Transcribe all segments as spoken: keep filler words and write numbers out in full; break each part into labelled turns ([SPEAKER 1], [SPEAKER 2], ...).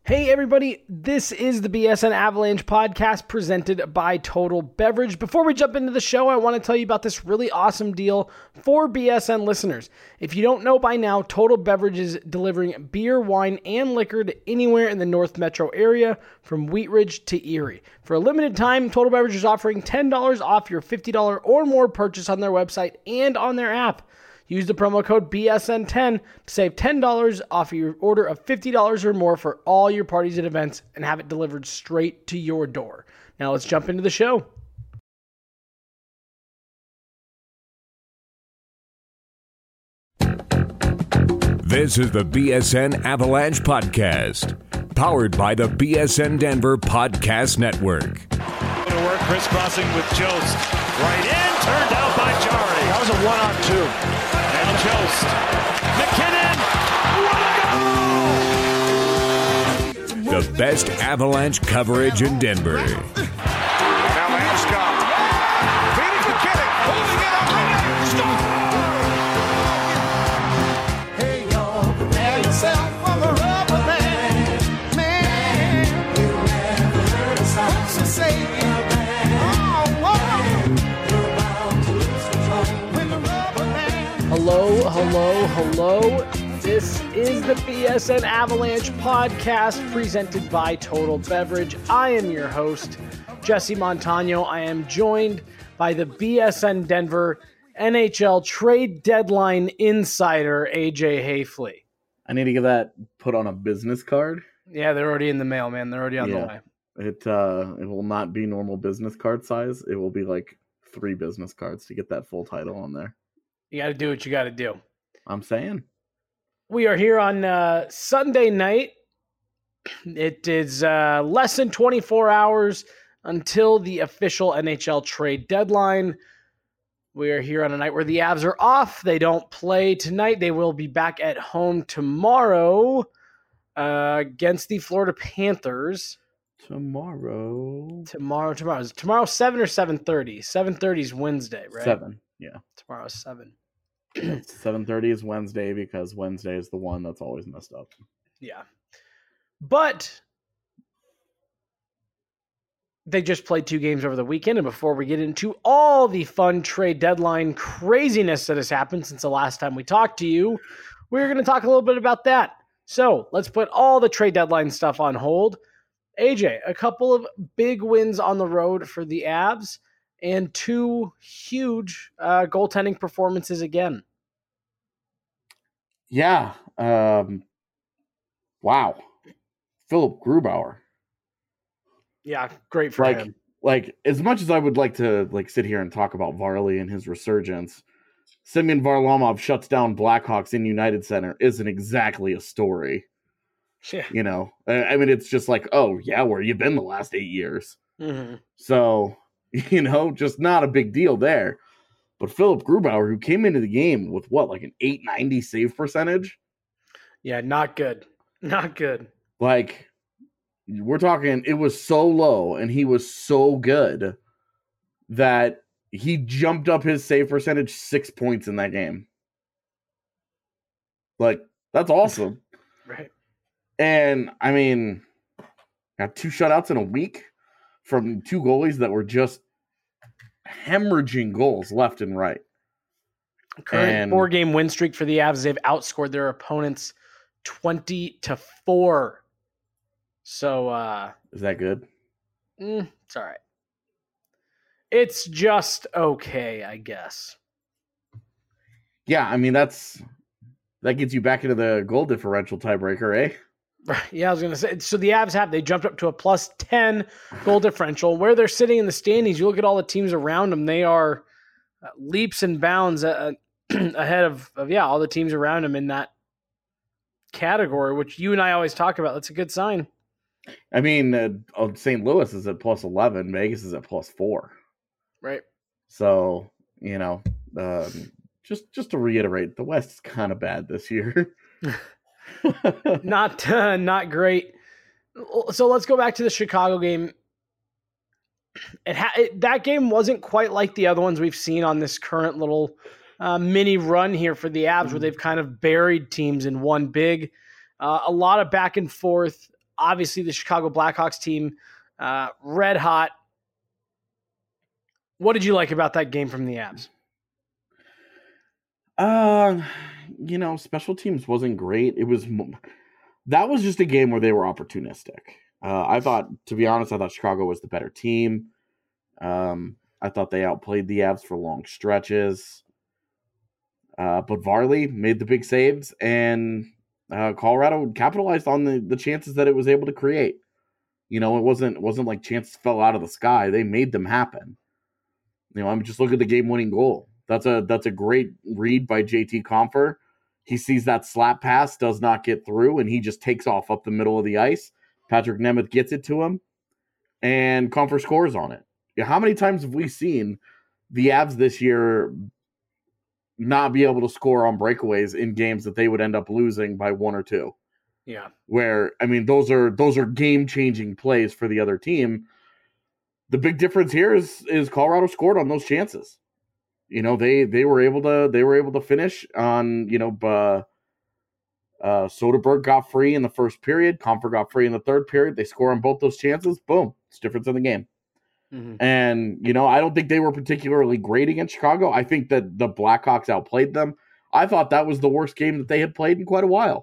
[SPEAKER 1] Hey everybody, this is the B S N Avalanche podcast presented by Total Beverage. Before we jump into the show, I want to tell you about this really awesome deal for B S N listeners. If you don't know by now, Total Beverage is delivering beer, wine, and liquor to anywhere in the North Metro area, from Wheat Ridge to Erie. For a limited time, Total Beverage is offering ten dollars off your fifty dollars or more purchase on their website and on their app. Use the promo code B S N ten to save ten dollars off your order of fifty dollars or more for all your parties and events and have it delivered straight to your door. Now let's jump into the show.
[SPEAKER 2] This is the B S N Avalanche Podcast, powered by the B S N Denver Podcast Network.
[SPEAKER 3] To work, crisscrossing with Jost. Right in, turned out by Jari.
[SPEAKER 4] That was a one-on-two.
[SPEAKER 3] Now Jost. McKinnon. What a goal!
[SPEAKER 2] The best Avalanche coverage in Denver.
[SPEAKER 4] Now Landeskog. Feeding McKinnon. Holding it up. Hey, y'all, prepare yourself for the rubber band. Man, you never heard a song to say.
[SPEAKER 1] Hello, hello, hello. This is the B S N Avalanche podcast presented by Total Beverage. I am your host, Jesse Montano. I am joined by the B S N Denver N H L trade deadline insider, A J Hayfley.
[SPEAKER 5] I need to get that put on a business card.
[SPEAKER 1] Yeah, they're already in the mail, man. They're already on
[SPEAKER 5] yeah.
[SPEAKER 1] the way.
[SPEAKER 5] It uh, it will not be normal business card size. It will be like three business cards to get that full title on there.
[SPEAKER 1] You got to do what you got to do.
[SPEAKER 5] I'm saying.
[SPEAKER 1] We are here on uh, Sunday night. It is uh, less than twenty-four hours until the official N H L trade deadline. We are here on a night where the Avs are off. They don't play tonight. They will be back at home tomorrow uh, against the Florida Panthers.
[SPEAKER 5] Tomorrow.
[SPEAKER 1] Tomorrow, tomorrow. Is tomorrow seven or seven thirty? seven thirty is Wednesday, right?
[SPEAKER 5] seven, yeah.
[SPEAKER 1] Tomorrow's seven.
[SPEAKER 5] seven thirty is Wednesday because Wednesday is the one that's always messed up.
[SPEAKER 1] Yeah. But they just played two games over the weekend, and before we get into all the fun trade deadline craziness that has happened since the last time we talked to you, we're going to talk a little bit about that. So let's put all the trade deadline stuff on hold. A J, a couple of big wins on the road for the Avs and two huge uh, goaltending performances again.
[SPEAKER 5] Yeah. Um, wow. Philip Grubauer.
[SPEAKER 1] Yeah, great for
[SPEAKER 5] like,
[SPEAKER 1] him.
[SPEAKER 5] Like, as much as I would like to like sit here and talk about Varley and his resurgence, Semyon Varlamov shuts down Blackhawks in United Center isn't exactly a story.
[SPEAKER 1] Yeah.
[SPEAKER 5] You know, I mean, it's just like, oh, yeah, where you been the last eight years?
[SPEAKER 1] Mm-hmm.
[SPEAKER 5] So, you know, just not a big deal there. But Philip Grubauer, who came into the game with what, like an eight ninety save percentage?
[SPEAKER 1] Yeah, not good. Not good.
[SPEAKER 5] Like, we're talking, it was so low and he was so good that he jumped up his save percentage six points in that game. Like, that's awesome.
[SPEAKER 1] Right.
[SPEAKER 5] And, I mean, got two shutouts in a week from two goalies that were just hemorrhaging goals left and right.
[SPEAKER 1] Current
[SPEAKER 5] and,
[SPEAKER 1] four-game win streak for the Avs. They've outscored their opponents twenty to four. So, uh...
[SPEAKER 5] is that good?
[SPEAKER 1] Mm, it's all right. It's just okay, I guess.
[SPEAKER 5] Yeah, I mean, that's... That gets you back into the goal differential tiebreaker, eh?
[SPEAKER 1] Yeah, I was going to say, so the Avs have, they jumped up to a plus ten goal differential. Where they're sitting in the standings, you look at all the teams around them, they are uh, leaps and bounds uh, ahead of, of, yeah, all the teams around them in that category, which you and I always talk about. That's a good sign.
[SPEAKER 5] I mean, uh, Saint Louis is at plus eleven, Vegas is at plus four.
[SPEAKER 1] Right.
[SPEAKER 5] So, you know, um, just, just to reiterate, the West is kind of bad this year.
[SPEAKER 1] not uh, not great. So let's go back to the Chicago game. It, ha- it that game wasn't quite like the other ones we've seen on this current little uh, mini run here for the Avs, where they've kind of buried teams in one big. Uh, a lot of back and forth. obviously, the Chicago Blackhawks team, uh, red hot. What did you like about that game from the Avs?
[SPEAKER 5] Uh, you know, special teams wasn't great. It was that was just a game where they were opportunistic. Uh, I thought, to be honest, I thought Chicago was the better team. Um, I thought they outplayed the Avs for long stretches. Uh, but Varley made the big saves, and uh, Colorado capitalized on the, the chances that it was able to create. You know, it wasn't it wasn't like chances fell out of the sky. They made them happen. You know, I'm just look at the game-winning goal. That's a that's a great read by J T Compher. He sees that slap pass, does not get through, and he just takes off up the middle of the ice. Patrick Nemeth gets it to him, and Compher scores on it. Yeah, how many times have we seen the Avs this year not be able to score on breakaways in games that they would end up losing by one or two?
[SPEAKER 1] Yeah.
[SPEAKER 5] Where, I mean, those are those are game-changing plays for the other team. The big difference here is is Colorado scored on those chances. You know, they they were able to they were able to finish on, you know, uh, uh, Soderberg got free in the first period. Compher got free in the third period. They score on both those chances. Boom. It's difference in the game. Mm-hmm. And, you know, I don't think they were particularly great against Chicago. I think that the Blackhawks outplayed them. I thought that was the worst game that they had played in quite a while.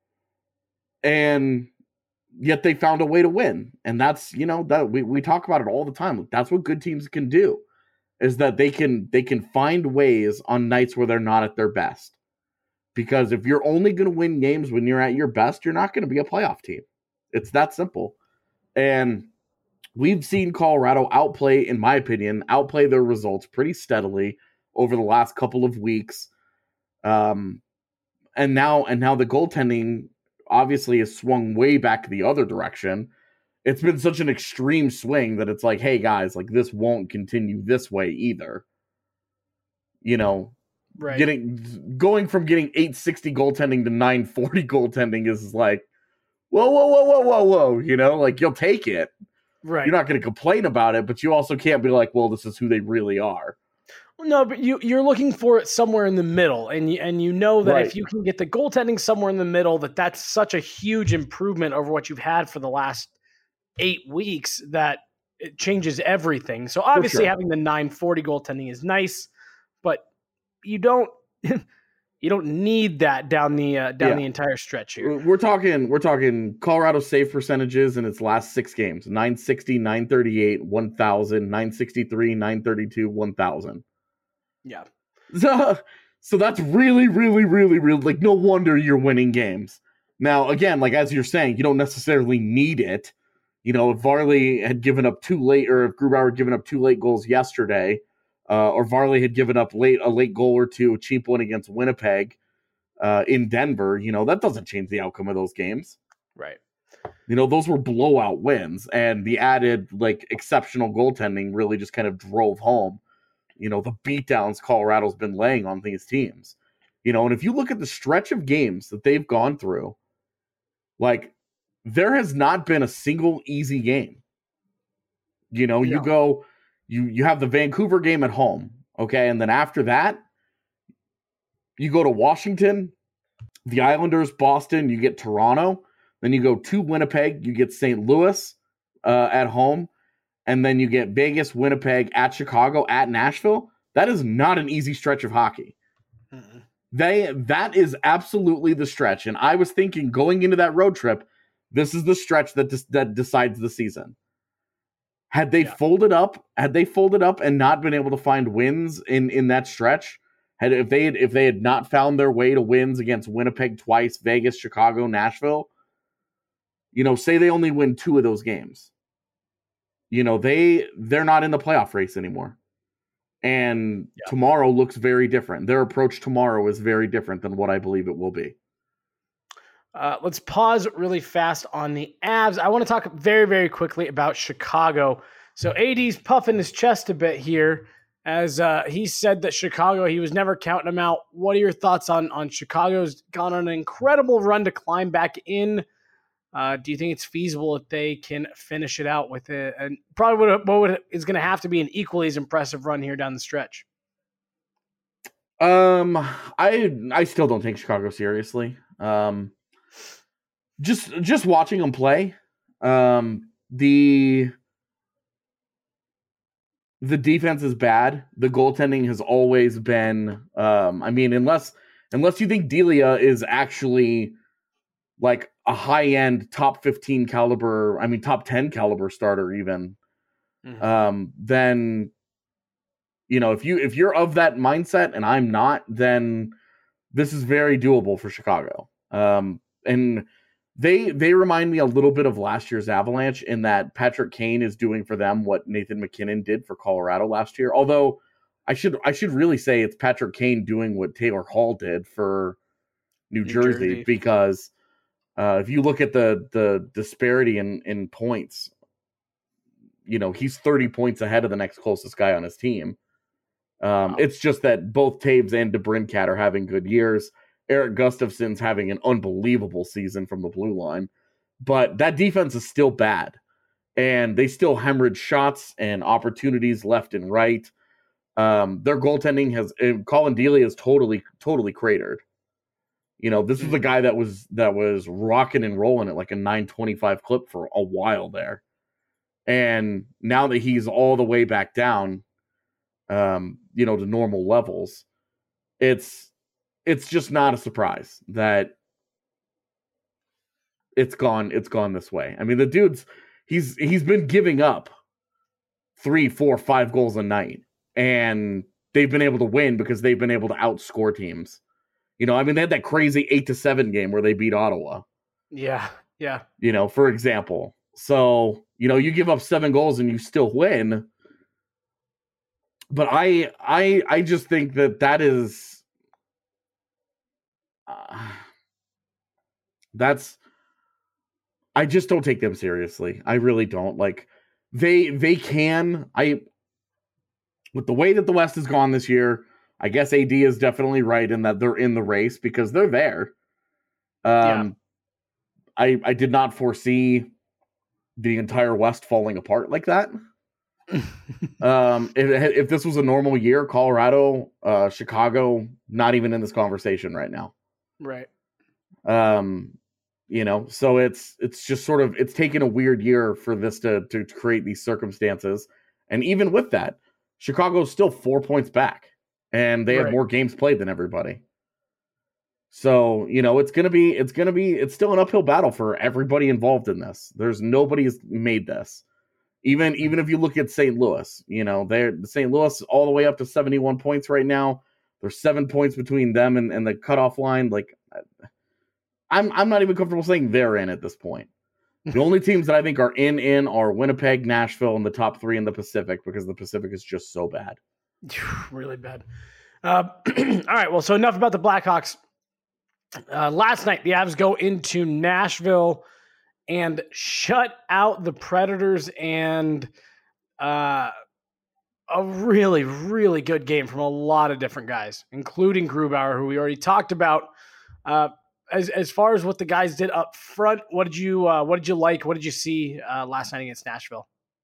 [SPEAKER 5] And yet they found a way to win. And that's, you know, that we, we talk about it all the time. That's what good teams can do. Is that they can they can find ways on nights where they're not at their best. Because if you're only going to win games when you're at your best, you're not going to be a playoff team. It's that simple. And we've seen Colorado outplay, in my opinion, outplay their results pretty steadily over the last couple of weeks. Um, and now and now the goaltending obviously has swung way back the other direction. It's been such an extreme swing that it's like, hey, guys, like this won't continue this way either. You know,
[SPEAKER 1] right.
[SPEAKER 5] getting going from getting eight sixty goaltending to nine forty goaltending is like, whoa, whoa, whoa, whoa, whoa, whoa. You know, like you'll take it.
[SPEAKER 1] Right.
[SPEAKER 5] You're not going to complain about it, but you also can't be like, well, this is who they really are.
[SPEAKER 1] No, but you, you're looking for it somewhere in the middle, and you, and you know that
[SPEAKER 5] Right.
[SPEAKER 1] if you can get the goaltending somewhere in the middle, that that's such a huge improvement over what you've had for the last eight weeks that it changes everything. So obviously
[SPEAKER 5] sure.
[SPEAKER 1] having the nine forty goaltending is nice, but you don't you don't need that down the uh, down
[SPEAKER 5] Yeah.
[SPEAKER 1] the entire stretch here.
[SPEAKER 5] We're talking we're talking Colorado save percentages in its last six games: nine sixty, nine thirty-eight, one thousand, nine sixty-three, nine thirty-two, one thousand.
[SPEAKER 1] Yeah.
[SPEAKER 5] So, so that's really, really, really, really like no wonder you're winning games. Now, again, like as you're saying, you don't necessarily need it. You know, if Varley had given up two late, or if Grubauer had given up two late goals yesterday, uh, or Varley had given up late a late goal or two, a cheap one against Winnipeg uh, in Denver, you know, that doesn't change the outcome of those games.
[SPEAKER 1] Right.
[SPEAKER 5] You know, those were blowout wins, and the added like exceptional goaltending really just kind of drove home, you know, the beatdowns Colorado's been laying on these teams. You know, and if you look at the stretch of games that they've gone through, like, there has not been a single easy game. You know,
[SPEAKER 1] Yeah.
[SPEAKER 5] you go, you you have the Vancouver game at home, okay? And then after that, you go to Washington, the Islanders, Boston, you get Toronto. Then you go to Winnipeg, you get Saint Louis uh, at home. And then you get Vegas, Winnipeg, at Chicago, at Nashville. That is not an easy stretch of hockey. Mm-hmm. They That is absolutely the stretch. And I was thinking going into that road trip, this is the stretch that des- that decides the season. Had they
[SPEAKER 1] Yeah.
[SPEAKER 5] folded up, had they folded up and not been able to find wins in, in that stretch, had if they had if they had not found their way to wins against Winnipeg twice, Vegas, Chicago, Nashville, you know, say they only win two of those games. You know, they they're not in the playoff race anymore. And
[SPEAKER 1] Yeah.
[SPEAKER 5] tomorrow looks very different. Their approach tomorrow is very different than what I believe it will be.
[SPEAKER 1] Uh, let's pause really fast on the Avs. I want to talk very, very quickly about Chicago. So A D's puffing his chest a bit here as uh, he said that Chicago, he was never counting them out. What are your thoughts on, on Chicago's gone on an incredible run to climb back in? Uh, do you think it's feasible if they can finish it out with it? And probably what, what would, is going to have to be an equally as impressive run here down the stretch.
[SPEAKER 5] Um, I I still don't take Chicago seriously. Um, just just watching them play, Um, the the defense is bad. The goaltending has always been. Um, I mean, unless unless you think Delia is actually like a high end top fifteen caliber, I mean top ten caliber starter even. Mm-hmm. Um, then you know if you if you're of that mindset and I'm not, then this is very doable for Chicago. Um, and they they remind me a little bit of last year's Avalanche in that Patrick Kane is doing for them what Nathan McKinnon did for Colorado last year. Although I should I should really say it's Patrick Kane doing what Taylor Hall did for New, New Jersey, Jersey because uh, if you look at the the disparity in in points, you know he's thirty points ahead of the next closest guy on his team. Um, wow. It's just that both Taves and DeBrincat are having good years. Eric Gustafsson's having an unbelievable season from the blue line, but that defense is still bad, and they still hemorrhage shots and opportunities left and right. Um, their goaltending has Colin Delia is totally, totally cratered. You know, this was a guy that was that was rocking and rolling at like a nine twenty-five clip for a while there, and now that he's all the way back down, um, you know, to normal levels, it's. It's just not a surprise that it's gone. It's gone this way. I mean, the dude's he's he's been giving up three, four, five goals a night, and they've been able to win because they've been able to outscore teams. You know, I mean, they had that crazy eight to seven game where they beat Ottawa.
[SPEAKER 1] Yeah, yeah.
[SPEAKER 5] You know, for example. So you know, you give up seven goals and you still win. But I, I, I just think that that is. Uh, that's I just don't take them seriously. I really don't. Like they they can I with the way that the West has gone this year, I guess A D is definitely right in that they're in the race because they're there. Um yeah. I I did not foresee the entire West falling apart like that. um if if this was a normal year, Colorado, uh Chicago, not even in this conversation right now.
[SPEAKER 1] Right.
[SPEAKER 5] Um, you know, so it's it's just sort of it's taken a weird year for this to to create these circumstances. And even with that, Chicago's still four points back and they right. have more games played than everybody. So, you know, it's gonna be it's gonna be it's still an uphill battle for everybody involved in this. There's nobody's made this. Even even if you look at Saint Louis, you know, they're Saint Louis all the way up to seventy-one points right now. There's seven points between them and, and the cutoff line. Like, I'm I'm not even comfortable saying they're in at this point. The only teams that I think are in in are Winnipeg, Nashville, and the top three in the Pacific because the Pacific is just so bad.
[SPEAKER 1] Really bad. Uh, all right, well, so enough about the Blackhawks. Uh, last night, the Avs go into Nashville and shut out the Predators and uh, a really, really good game from a lot of different guys, including Grubauer, who we already talked about. Uh, as as far as what the guys did up front, what did you uh, what did you like? What did you see uh, last night against Nashville?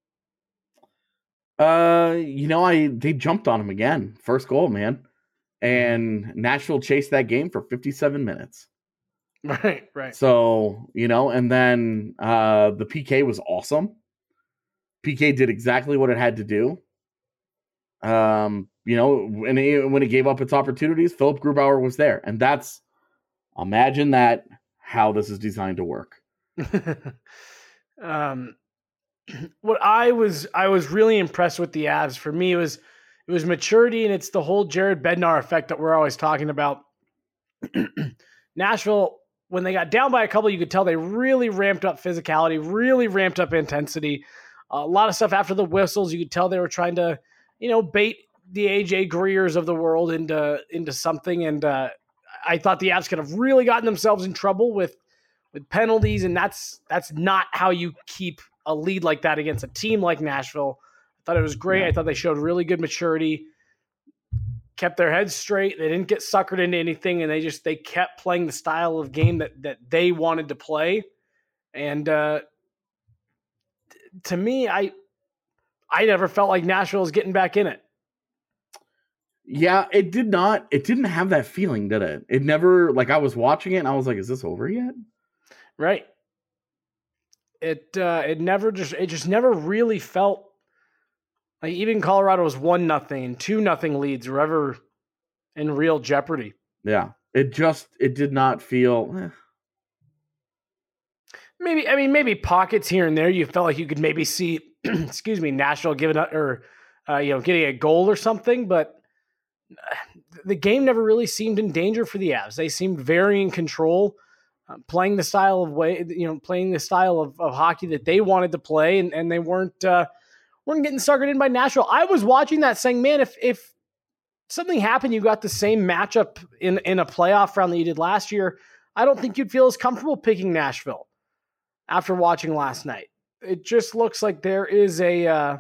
[SPEAKER 5] Uh, you know, I they jumped on him again, first goal, man, and Nashville chased that game for fifty-seven minutes.
[SPEAKER 1] Right, right.
[SPEAKER 5] So you know, and then uh, the P K was awesome. P K did exactly what it had to do. Um, you know, when it, when it gave up its opportunities, Philip Grubauer was there. And that's, imagine that, how this is designed to work.
[SPEAKER 1] um, what I was, I was really impressed with the Avs. For me, it was, it was maturity, and it's the whole Jared Bednar effect that we're always talking about. Nashville, when they got down by a couple, you could tell they really ramped up physicality, really ramped up intensity. A lot of stuff after the whistles, you could tell they were trying to, you know, bait the A J Greers of the world into into something. And uh, I thought the Avs could have really gotten themselves in trouble with with penalties, and that's that's not how you keep a lead like that against a team like Nashville. I thought it was great. Yeah. I thought they showed really good maturity, kept their heads straight. They didn't get suckered into anything, and they just they kept playing the style of game that that they wanted to play. And uh, to me, I. I never felt like Nashville was getting back in it.
[SPEAKER 5] Yeah, it did not. It didn't have that feeling, did it? It never, like I was watching it and I was like, is this over yet?
[SPEAKER 1] Right. It uh, it never just it just never really felt like even Colorado was one nothing and two nothing leads were ever in real jeopardy.
[SPEAKER 5] Yeah, it just it did not feel. Eh.
[SPEAKER 1] Maybe I mean maybe pockets here and there you felt like you could maybe see, excuse me, Nashville giving up or uh, you know getting a goal or something, but the game never really seemed in danger for the Avs. They seemed very in control. Uh, playing the style of way, you know, playing the style of, of hockey that they wanted to play, and, and they weren't uh, weren't getting suckered in by Nashville. I was watching that, saying, "Man, if if something happened, you got the same matchup in in a playoff round that you did last year, I don't think you'd feel as comfortable picking Nashville." After watching last night, it just looks like there is a uh,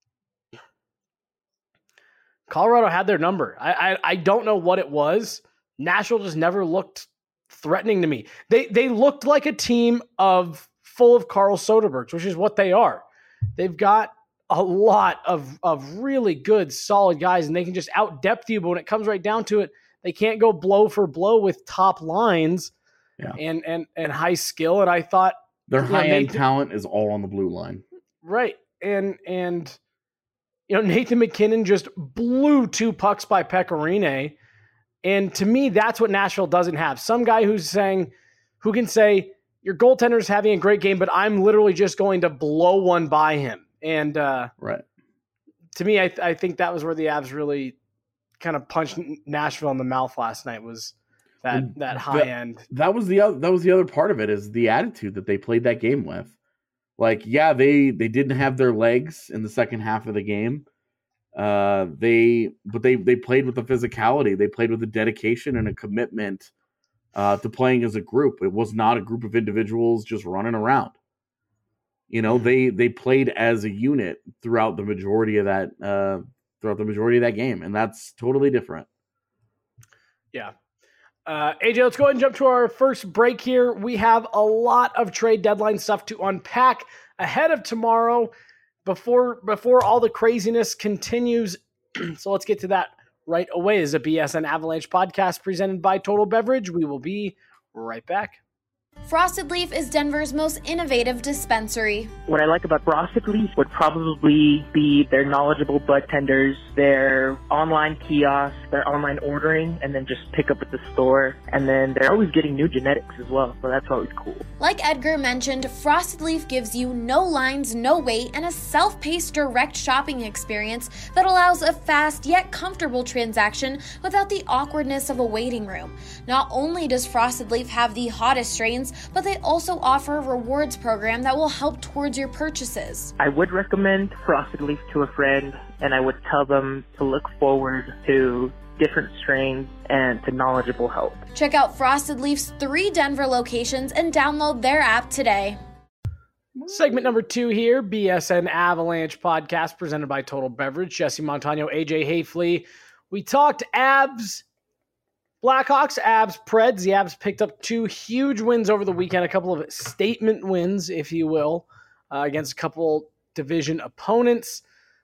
[SPEAKER 1] Colorado had their number. I, I I don't know what it was. Nashville just never looked threatening to me. They they looked like a team of full of Carl Soderbergs, which is what they are. They've got a lot of of really good, solid guys, and they can just out depth you. But when it comes right down to it, they can't go blow for blow with top lines
[SPEAKER 5] yeah.
[SPEAKER 1] and and and high skill. And I thought
[SPEAKER 5] their high end
[SPEAKER 1] Nathan,
[SPEAKER 5] talent is all on the blue line,
[SPEAKER 1] right? And and you know Nathan MacKinnon just blew two pucks by Pecorine. And to me, that's what Nashville doesn't have. Some guy who's saying, who can say, your goaltender's having a great game, but I'm literally just going to blow one by him. And uh,
[SPEAKER 5] right.
[SPEAKER 1] to me, I, th- I think that was where the Avs really kind of punched Nashville in the mouth last night, was that
[SPEAKER 5] and
[SPEAKER 1] that high
[SPEAKER 5] that,
[SPEAKER 1] end.
[SPEAKER 5] That was the other, that was the other part of it, is the attitude that they played that game with. Like, yeah, they they didn't have their legs in the second half of the game. Uh, they, but they, they played with the physicality. They played with a dedication and a commitment uh, to playing as a group. It was not a group of individuals just running around. You know, they, they played as a unit throughout the majority of that, uh, throughout the majority of that game. And that's totally different.
[SPEAKER 1] Yeah. Uh, A J, let's go ahead and jump to our first break here. We have a lot of trade deadline stuff to unpack ahead of tomorrow. Before before all the craziness continues, so let's get to that right away. This is a B S N Avalanche podcast presented by Total Beverage. We will be right back.
[SPEAKER 6] Frosted Leaf is Denver's most innovative dispensary.
[SPEAKER 7] What I like about Frosted Leaf would probably be their knowledgeable bud tenders, their online kiosks, their online ordering, and then just pick up at the store. And then they're always getting new genetics as well, so that's always cool.
[SPEAKER 6] Like Edgar mentioned, Frosted Leaf gives you no lines, no wait, and a self-paced direct shopping experience that allows a fast yet comfortable transaction without the awkwardness of a waiting room. Not only does Frosted Leaf have the hottest strains, but they also offer a rewards program that will help towards your purchases.
[SPEAKER 7] I would recommend Frosted Leaf to a friend, and I would tell them to look forward to different strains and to knowledgeable help.
[SPEAKER 6] Check out Frosted Leaf's three Denver locations and download their app today.
[SPEAKER 1] Segment number two here, B S N Avalanche podcast presented by Total Beverage. Jesse Montano, A J Hayfley. We talked Avs, Blackhawks, Avs, Preds. The Avs picked up two huge wins over the weekend, a couple of statement wins, if you will, uh, against a couple division opponents.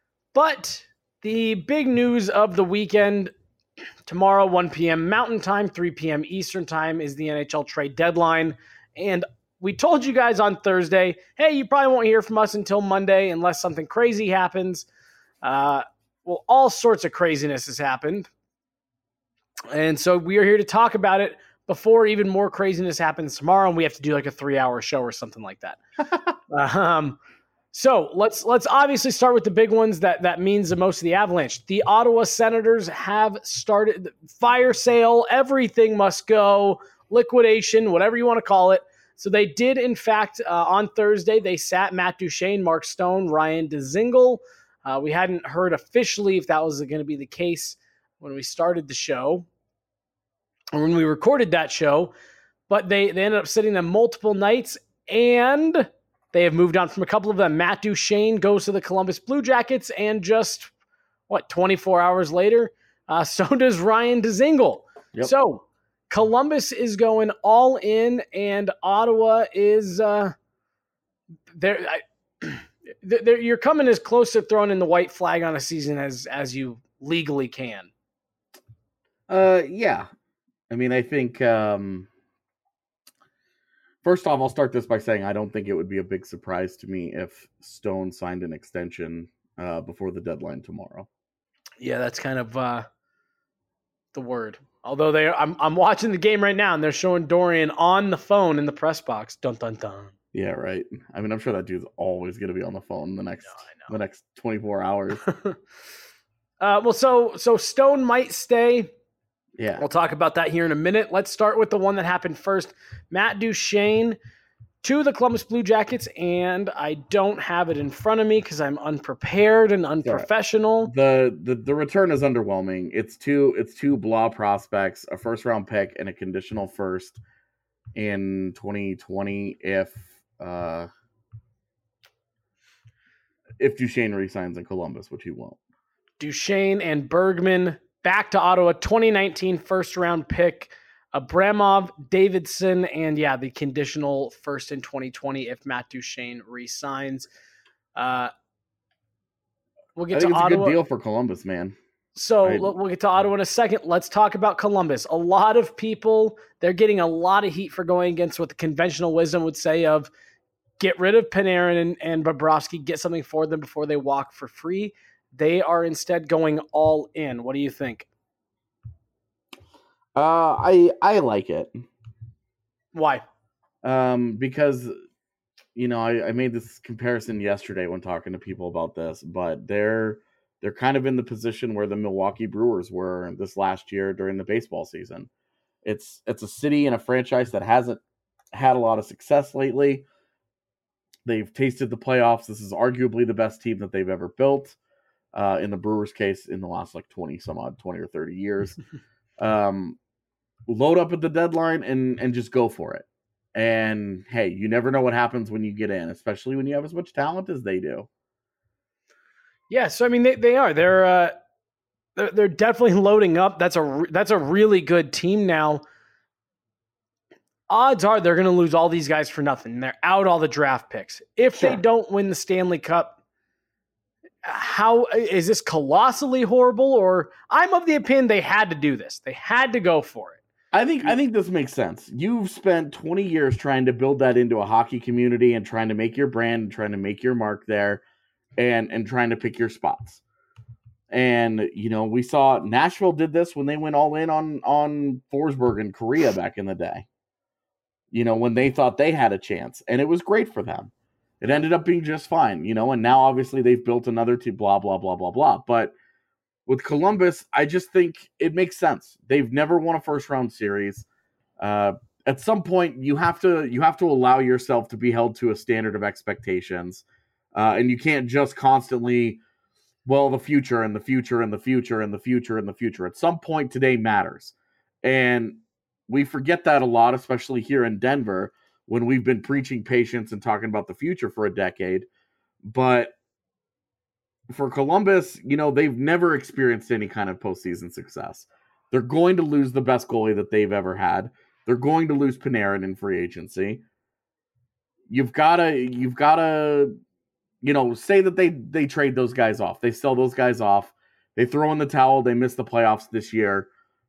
[SPEAKER 1] But the big news of the weekend, tomorrow, one p.m. Mountain Time, three p.m. Eastern Time, is the N H L trade deadline. And we told you guys on Thursday, hey, you probably won't hear from us until Monday unless something crazy happens. Uh, well, all sorts of craziness has happened. And so we are here to talk about it before even more craziness happens tomorrow, and we have to do like a three-hour show or something like that. um, so let's let's obviously start with the big ones that that means the most to the Avalanche. The Ottawa Senators have started fire sale. Everything must go, liquidation, whatever you want to call it. So they did, in fact, uh, on Thursday, they sat Matt Duchene, Mark Stone, Ryan Dzingel. Uh, we hadn't heard officially if that was going to be the case when we started the show, or when we recorded that show, but they, they ended up sitting them multiple nights, and they have moved on from a couple of them. Matt Duchene goes to the Columbus Blue Jackets, and just, what, twenty-four hours later, uh, so does Ryan Dzingel. Yep. So Columbus is going all in, and Ottawa is uh, there. They're, you're coming as close to throwing in the white flag on a season as as you legally can.
[SPEAKER 5] Uh, yeah. I mean, I think, um, First off, I'll start this by saying I don't think it would be a big surprise to me if Stone signed an extension uh, before the deadline tomorrow.
[SPEAKER 1] Yeah, that's kind of uh, the word. Although they, I'm I'm watching the game right now, and they're showing Dorian on the phone in the press box. Dun dun dun.
[SPEAKER 5] Yeah, right. I mean, I'm sure that dude's always going to be on the phone the next
[SPEAKER 1] No,
[SPEAKER 5] the next twenty-four hours.
[SPEAKER 1] uh, well, so so Stone might stay.
[SPEAKER 5] Yeah,
[SPEAKER 1] We'll talk about that here in a minute. Let's start with the one that happened first. Matt Duchene to the Columbus Blue Jackets, and I don't have it in front of me because I'm unprepared and unprofessional.
[SPEAKER 5] the, the the return is underwhelming. It's two it's two blah prospects, a first round pick, and a conditional first in twenty twenty if uh, if Duchene resigns in Columbus, which he won't.
[SPEAKER 1] Duchene and Bergman back to Ottawa, twenty nineteen first round pick, Abramov, Davidson, and yeah, the conditional first in twenty twenty if Matt Duchene resigns. Uh, we'll get
[SPEAKER 5] I think
[SPEAKER 1] to
[SPEAKER 5] it's
[SPEAKER 1] Ottawa.
[SPEAKER 5] a good deal for Columbus, man.
[SPEAKER 1] So
[SPEAKER 5] I-
[SPEAKER 1] we'll get to Ottawa in a second. Let's talk about Columbus. A lot of people, they're getting a lot of heat for going against what the conventional wisdom would say of get rid of Panarin and, and Bobrovsky, get something for them before they walk for free. They are instead going all in. What do you think?
[SPEAKER 5] Uh, I I like it.
[SPEAKER 1] Why?
[SPEAKER 5] Um, because you know I, I made this comparison yesterday when talking to people about this, but they're they're kind of in the position where the Milwaukee Brewers were this last year during the baseball season. It's it's a city and a franchise that hasn't had a lot of success lately. They've tasted the playoffs. This is arguably the best team that they've ever built. Uh, in the Brewers' case, in the last like twenty some odd, twenty or thirty years. um, load up at the deadline and and just go for it. And hey, you never know what happens when you get in, especially when you have as much talent as they do.
[SPEAKER 1] Yeah, so I mean they, they are. They're uh they're, they're definitely loading up. That's a re- that's a really good team now. Odds are they're going to lose all these guys for nothing. They're out all the draft picks. If
[SPEAKER 5] Sure.
[SPEAKER 1] they don't win the Stanley Cup, how is this colossally horrible? Or I'm of the opinion they had to do this. They had to go for it.
[SPEAKER 5] I think I think this makes sense. You've spent twenty years trying to build that into a hockey community and trying to make your brand and trying to make your mark there and and trying to pick your spots. And you know, we saw Nashville did this when they went all in on on Forsberg in Korea back in the day. You know, when they thought they had a chance, and it was great for them. It ended up being just fine, you know, and now obviously they've built another team, blah, blah, blah, blah, blah. But with Columbus, I just think it makes sense. They've never won a first round series. Uh, at some point, you have to you have to allow yourself to be held to a standard of expectations. Uh, and you can't just constantly, well, the future and the future and the future and the future and the future. At some point, today matters. And we forget that a lot, especially here in Denver, when we've been preaching patience and talking about the future for a decade. But for Columbus, you know, they've never experienced any kind of postseason success. They're going to lose the best goalie that they've ever had. They're going to lose Panarin in free agency. You've gotta, you've gotta, you know, say that they they trade those guys off. They sell those guys off. They throw in the towel. They miss the playoffs this year.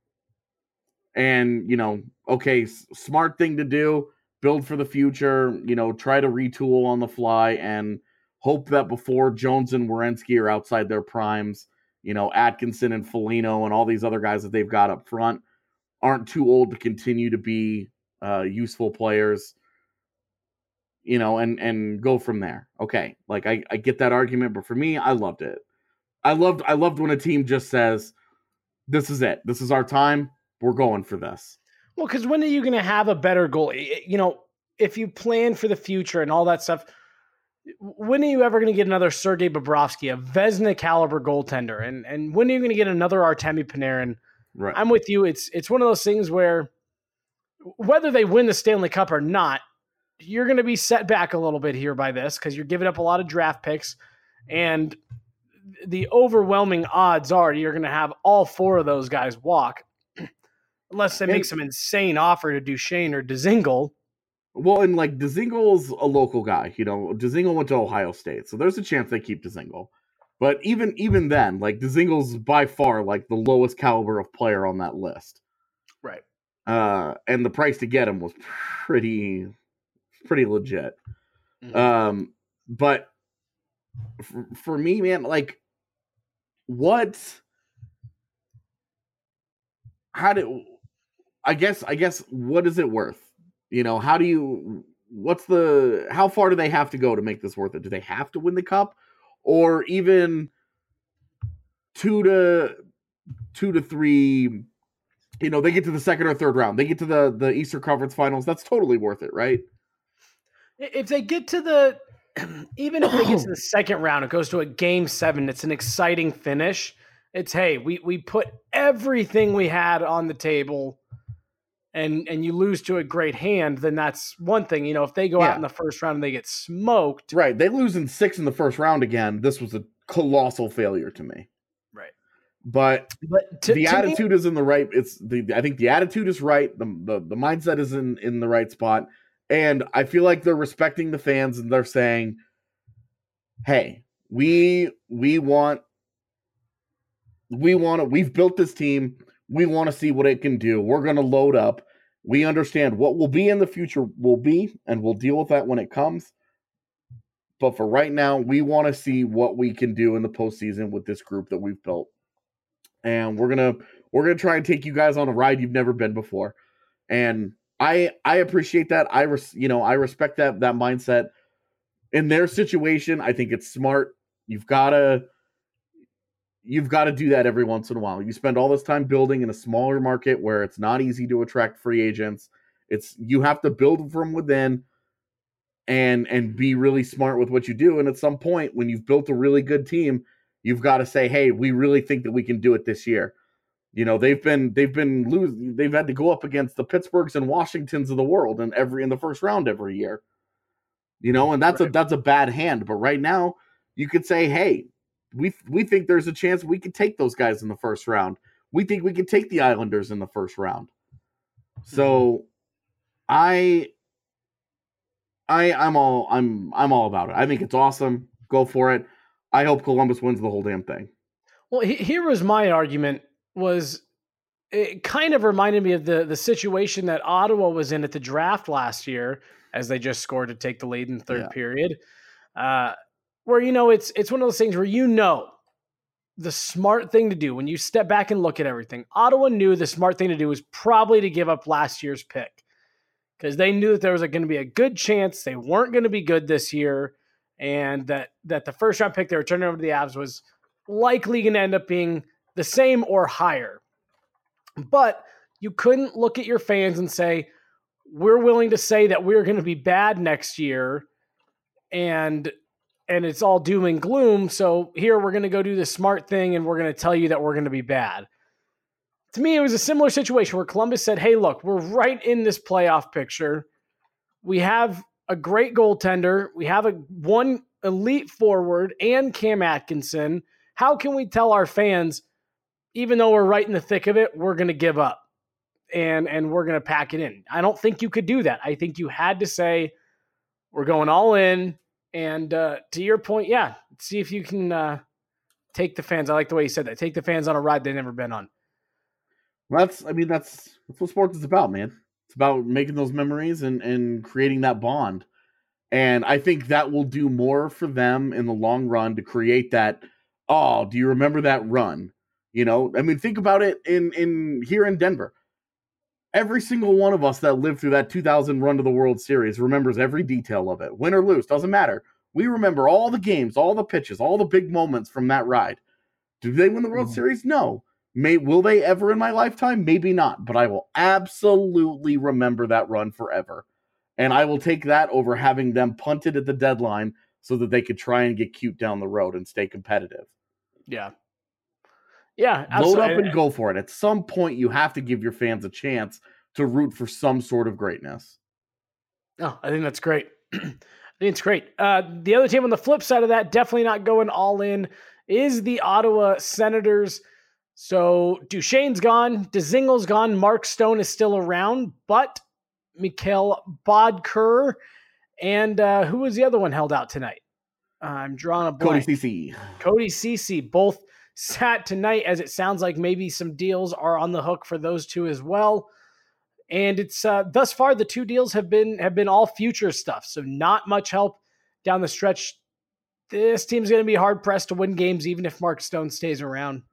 [SPEAKER 5] And, you know, okay, s- smart thing to do. Build for the future, you know, try to retool on the fly and hope that before Jones and Werenski are outside their primes, you know, Atkinson and Foligno and all these other guys that they've got up front aren't too old to continue to be uh, useful players, you know, and, and go from there. Okay. Like I, I get that argument, but for me, I loved it. I loved, I loved when a team just says, this is it. This is our time. We're going for this.
[SPEAKER 1] Well, because when are you going to have a better goalie? You know, if you plan for the future and all that stuff, when are you ever going to get another Sergei Bobrovsky, a Vezina caliber goaltender? And and when are you going to get another Artemi Panarin?
[SPEAKER 5] Right.
[SPEAKER 1] I'm with you. It's it's one of those things where whether they win the Stanley Cup or not, you're going to be set back a little bit here by this because you're giving up a lot of draft picks. And the overwhelming odds are you're going to have all four of those guys walk. Unless they make
[SPEAKER 5] And-
[SPEAKER 1] some insane offer to Duchene or Dzingel.
[SPEAKER 5] Well, and like Dzingel's a local guy, you know. Dzingel went to Ohio State, so there's a chance they keep Dzingel. But even even then, like Dzingel's by far like the lowest caliber of player on that list.
[SPEAKER 1] Right.
[SPEAKER 5] Uh, and the price to get him was pretty pretty legit.
[SPEAKER 1] Mm-hmm.
[SPEAKER 5] Um, but for, for me, man, like, what? How do? I guess. I guess. What is it worth? You know, how do you? What's the? How far do they have to go to make this worth it? Do they have to win the cup, or even two to two to three? You know, they get to the second or third round. They get to the the Eastern Conference Finals. That's totally worth it, right?
[SPEAKER 1] If they get to the, even if they get to the second round, it goes to a game seven. It's an exciting finish. It's, hey, we we put everything we had on the table, and and you lose to a great hand, then that's one thing. You know, if they go
[SPEAKER 5] Yeah.
[SPEAKER 1] out in the first round and they get smoked,
[SPEAKER 5] Right. They lose in six in the first round again. This was a colossal failure to me.
[SPEAKER 1] right?
[SPEAKER 5] But
[SPEAKER 1] But to,
[SPEAKER 5] the
[SPEAKER 1] to
[SPEAKER 5] attitude
[SPEAKER 1] me,
[SPEAKER 5] is in the right. It's the. I think the attitude is right. The, the the mindset is in in the right spot, and I feel like they're respecting the fans and they're saying, "Hey, we we want we want to. We've built this team. We want to see what it can do. We're going to load up. We understand what will be in the future will be, and we'll deal with that when it comes. But for right now, we want to see what we can do in the postseason with this group that we've built." And we're gonna we're gonna try and take you guys on a ride you've never been before, and I I appreciate that. I res, you know I respect that that mindset. In their situation, I think it's smart. You've gotta you've got to do that every once in a while. You spend all this time building in a smaller market where it's not easy to attract free agents. It's you have to build from within and and be really smart with what you do. And at some point, when you've built a really good team, you've got to say, "Hey, we really think that we can do it this year." You know, they've been they've been losing. They've had to go up against the Pittsburghs and Washingtons of the world in every in the first round every year. You know, and that's right. a that's a bad hand. But right now, you could say, "Hey, we we think there's a chance we could take those guys in the first round. We think we could take the Islanders in the first round." So, mm-hmm. I. I, I'm all I'm I'm all about it. I think it's awesome. Go for it. I hope Columbus wins the whole damn thing.
[SPEAKER 1] Well, he, here was my argument. Was it kind of reminded me of the the situation that Ottawa was in at the draft last year, as they just scored to take the lead in the third
[SPEAKER 5] yeah.
[SPEAKER 1] period, uh, where you know it's it's one of those things where you know the smart thing to do when you step back and look at everything. Ottawa knew the smart thing to do was probably to give up last year's pick, because they knew that there was going to be a good chance they weren't going to be good this year, and that, that the first round pick they were turning over to the Avs was likely going to end up being the same or higher. But you couldn't look at your fans and say, we're willing to say that we're going to be bad next year, and and it's all doom and gloom, so here we're going to go do the smart thing, and we're going to tell you that we're going to be bad. To me, it was a similar situation where Columbus said, hey, look, we're right in this playoff picture. We have a great goaltender. We have a one elite forward and Cam Atkinson. How can we tell our fans, even though we're right in the thick of it, we're going to give up and, and we're going to pack it in? I don't think you could do that. I think you had to say, we're going all in. And uh, to your point, yeah, see if you can uh, take the fans. I like the way you said that. Take the fans on a ride they've never been on.
[SPEAKER 5] That's, I mean, that's that's what sports is about, man. It's about making those memories and, and creating that bond. And I think that will do more for them in the long run to create that, oh, do you remember that run? You know, I mean, think about it in, in here in Denver. Every single one of us that lived through that two thousand run to the World Series remembers every detail of it. Win or lose, doesn't matter. We remember all the games, all the pitches, all the big moments from that ride. Did they win the World mm-hmm. Series? No. May will they ever in my lifetime? Maybe not, but I will absolutely remember that run forever. And I will take that over having them punted at the deadline so that they could try and get cute down the road and stay competitive.
[SPEAKER 1] Yeah. Yeah.
[SPEAKER 5] Absolutely. Load up and go for it. At some point, you have to give your fans a chance to root for some sort of greatness.
[SPEAKER 1] Oh, I think that's great. I think it's great. Uh, the other team on the flip side of that, definitely not going all in, is the Ottawa Senators. So Duchesne's gone, Dzingel's gone, Mark Stone is still around, but Mikhail Bodker and uh, who was the other one held out tonight? Uh, I'm drawing a blank.
[SPEAKER 5] Cody Ceci.
[SPEAKER 1] Cody Ceci both sat tonight, as it sounds like maybe some deals are on the hook for those two as well. And it's uh, thus far the two deals have been have been all future stuff, so not much help down the stretch. This team's going to be hard pressed to win games, even if Mark Stone stays around.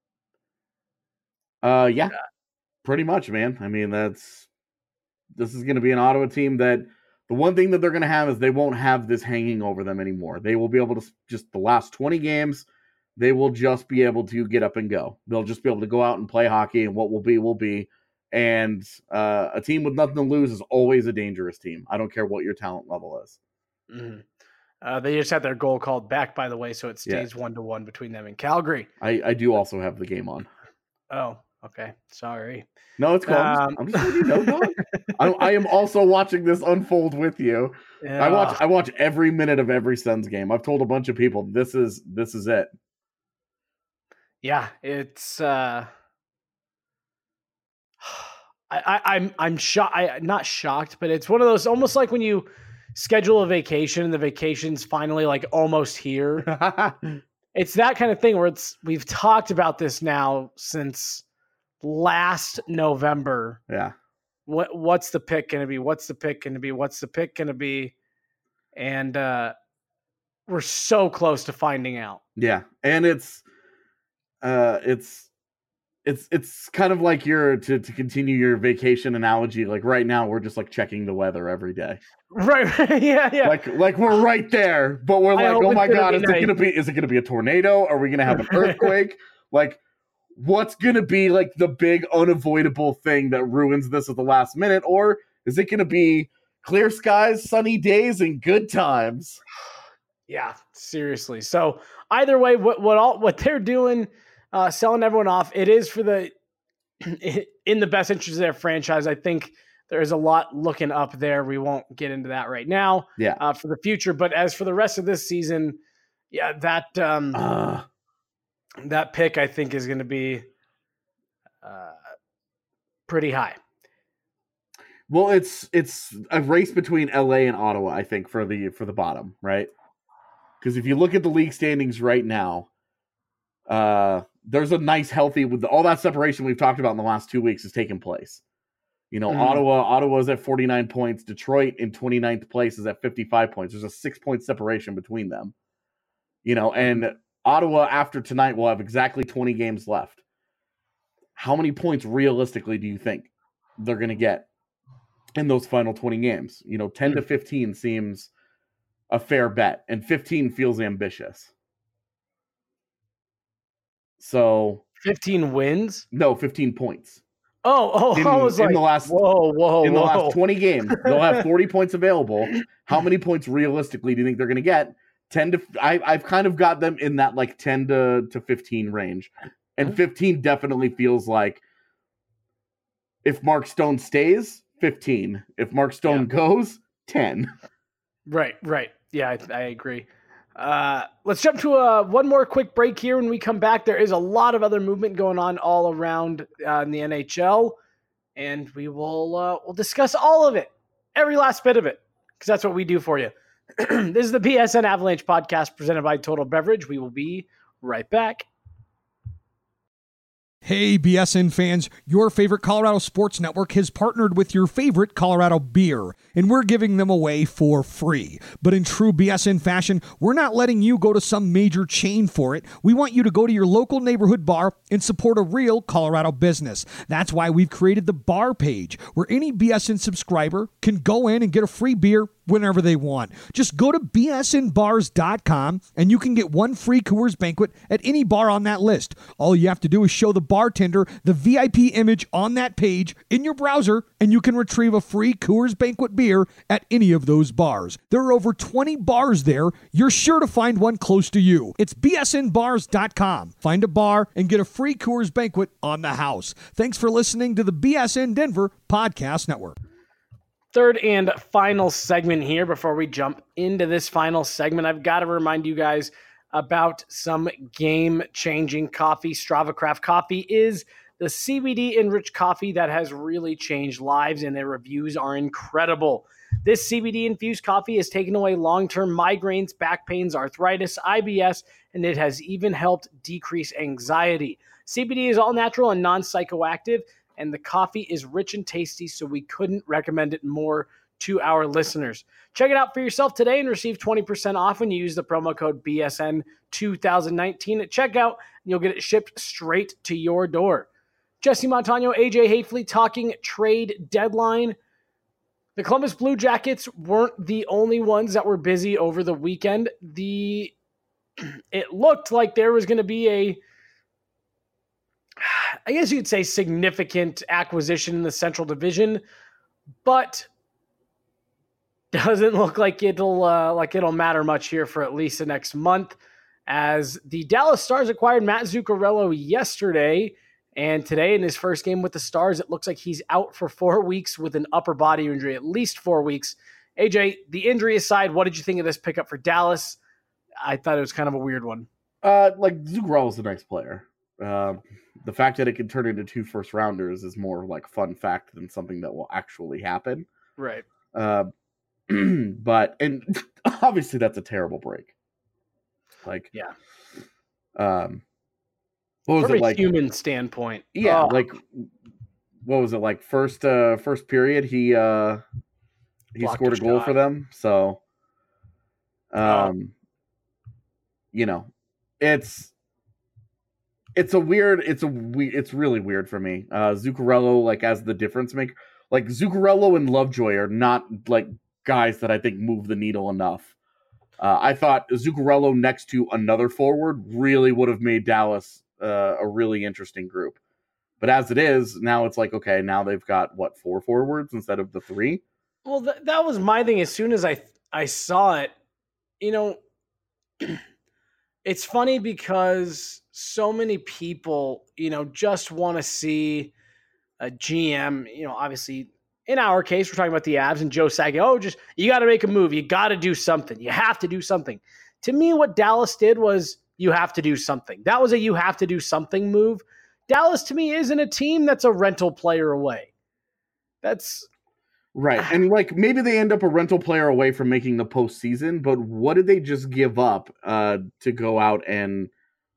[SPEAKER 5] Uh, yeah, pretty much, man. I mean, that's this is going to be an Ottawa team that the one thing that they're going to have is they won't have this hanging over them anymore. They will be able to just the last twenty games, they will just be able to get up and go. They'll just be able to go out and play hockey, and what will be will be. And uh, a team with nothing to lose is always a dangerous team. I don't care what your talent level is.
[SPEAKER 1] Mm-hmm. Uh, they just had their goal called back, by the way, so it stays yeah. one to one between them and Calgary.
[SPEAKER 5] I, I do also have the game on.
[SPEAKER 1] Oh, okay. Sorry.
[SPEAKER 5] No, it's cool. Um, I'm just letting you know, dog. I, I am also watching this unfold with you. Yeah. I watch I watch every minute of every Suns game. I've told a bunch of people this is this is it.
[SPEAKER 1] Yeah, it's. Uh... I, I, I'm I'm shocked. I not shocked, but it's one of those almost like when you schedule a vacation and the vacation's finally like almost here. It's that kind of thing where it's we've talked about this now since last November.
[SPEAKER 5] Yeah.
[SPEAKER 1] What what's the pick going to be? What's the pick going to be? What's the pick going to be? And uh, we're so close to finding out.
[SPEAKER 5] Yeah, and it's uh, it's. It's it's kind of like your to, to continue your vacation analogy. Like right now, we're just like checking the weather every day.
[SPEAKER 1] Right? yeah, yeah.
[SPEAKER 5] Like like we're right there, but we're like, oh my god, is nice. it gonna be? Is it gonna be a tornado? Are we gonna have an earthquake? Like, what's gonna be like the big unavoidable thing that ruins this at the last minute, or is it gonna be clear skies, sunny days, and good times?
[SPEAKER 1] Yeah, seriously. So either way, what what all what they're doing. Uh, selling everyone off. It is for the in the best interest of their franchise. I think there is a lot looking up there. We won't get into that right now.
[SPEAKER 5] Yeah.
[SPEAKER 1] Uh, for the future, but as for the rest of this season, yeah, that um, uh. that pick I think is going to be uh, pretty high.
[SPEAKER 5] Well, it's it's a race between L A and Ottawa, I think, for the for the bottom, right? Because if you look at the league standings right now, uh. there's a nice, healthy, with all that separation we've talked about in the last two weeks has taken place. You know, mm-hmm. Ottawa, Ottawa's at forty-nine points. Detroit in twenty-ninth place is at fifty-five points. There's a six point separation between them. You know, and Ottawa after tonight will have exactly twenty games left. How many points realistically do you think they're going to get in those final twenty games? You know, ten mm-hmm. to fifteen seems a fair bet, and fifteen feels ambitious. So
[SPEAKER 1] fifteen wins?
[SPEAKER 5] No, fifteen points.
[SPEAKER 1] Oh, oh,
[SPEAKER 5] in,
[SPEAKER 1] I was
[SPEAKER 5] in
[SPEAKER 1] like,
[SPEAKER 5] the last,
[SPEAKER 1] whoa, whoa,
[SPEAKER 5] in
[SPEAKER 1] whoa.
[SPEAKER 5] the last twenty games, they'll have forty points available. How many points realistically do you think they're going to get? ten to I, I've kind of got them in that like ten to, to fifteen range, and fifteen definitely feels like if Mark Stone stays, fifteen. If Mark Stone yeah. goes, ten.
[SPEAKER 1] Right, right. Yeah, I, I agree. Uh, let's jump to uh, one more quick break here. When we come back, there is a lot of other movement going on all around uh, in the N H L, and we will uh, we'll discuss all of it, every last bit of it, because that's what we do for you. This is the B S N Avalanche podcast presented by Total Beverage. We will be right back.
[SPEAKER 8] Hey, B S N fans, your favorite Colorado Sports Network has partnered with your favorite Colorado beer, and we're giving them away for free. But in true B S N fashion, we're not letting you go to some major chain for it. We want you to go to your local neighborhood bar and support a real Colorado business. That's why we've created the bar page, where any B S N subscriber can go in and get a free beer whenever they want. Just go to B S N bars dot com and you can get one free Coors Banquet at any bar on that list. All you have to do is show the bartender the V I P image on that page in your browser, and you can retrieve a free Coors Banquet beer at any of those bars. There are over twenty bars there. You're sure to find one close to you. It's B S N bars dot com. Find a bar and get a free Coors Banquet on the house. Thanks for listening to the B S N Denver Podcast Network.
[SPEAKER 1] Third and final segment here. Before we jump into this final segment, I've got to remind you guys about some game-changing coffee. Strava Craft Coffee is the C B D-enriched coffee that has really changed lives, and their reviews are incredible. This C B D-infused coffee has taken away long-term migraines, back pains, arthritis, I B S, and it has even helped decrease anxiety. C B D is all natural and non-psychoactive. and the coffee is rich and tasty, so we couldn't recommend it more to our listeners. Check it out for yourself today and receive twenty percent off when you use the promo code B S N twenty nineteen at checkout, and you'll get it shipped straight to your door. Jesse Montano, A J Hafley talking trade deadline. The Columbus Blue Jackets weren't the only ones that were busy over the weekend. The it looked like there was going to be a, I guess you'd say, significant acquisition in the Central Division, but doesn't look like it'll uh, like it'll matter much here for at least the next month, as the Dallas Stars acquired Matt Zuccarello yesterday. And today, in his first game with the Stars, it looks like he's out for four weeks with an upper body injury, at least four weeks. A J, the injury aside, what did you think of this pickup for Dallas? I thought it was kind of a weird one.
[SPEAKER 5] Uh, like, Zuccarello's a nice player. Uh, the fact that it can turn into two first rounders is more like fun fact than something that will actually happen.
[SPEAKER 1] Right.
[SPEAKER 5] Uh, but, and obviously that's a terrible break. Like,
[SPEAKER 1] yeah.
[SPEAKER 5] Um, What was
[SPEAKER 1] From
[SPEAKER 5] it like?
[SPEAKER 1] a human standpoint.
[SPEAKER 5] Yeah,
[SPEAKER 1] oh.
[SPEAKER 5] like what was it like? First, uh, first period, he uh, he
[SPEAKER 1] Blocked
[SPEAKER 5] scored a
[SPEAKER 1] a
[SPEAKER 5] goal
[SPEAKER 1] shot.
[SPEAKER 5] for them. So, um, you know, it's it's a weird. It's a we. It's really weird for me. Uh, Zuccarello, like as the difference maker, like Zuccarello and Lovejoy are not like guys that I think move the needle enough. Uh, I thought Zuccarello next to another forward really would have made Dallas Uh, a really interesting group. But as it is, now it's like, okay, now they've got, what, four forwards instead of the three?
[SPEAKER 1] Well, th- that was my thing. As soon as I I saw it, you know, it's funny because so many people, you know, just want to see a G M, you know, obviously, in our case, we're talking about the Avs and Joe Sakic. Oh, just, you got to make a move. You got to do something. You have to do something. To me, what Dallas did was, you have to do something. That was a you have to do something move. Dallas, to me, isn't a team that's a rental player away. That's
[SPEAKER 5] right. And like maybe they end up a rental player away from making the postseason, but what did they just give up uh, to go out and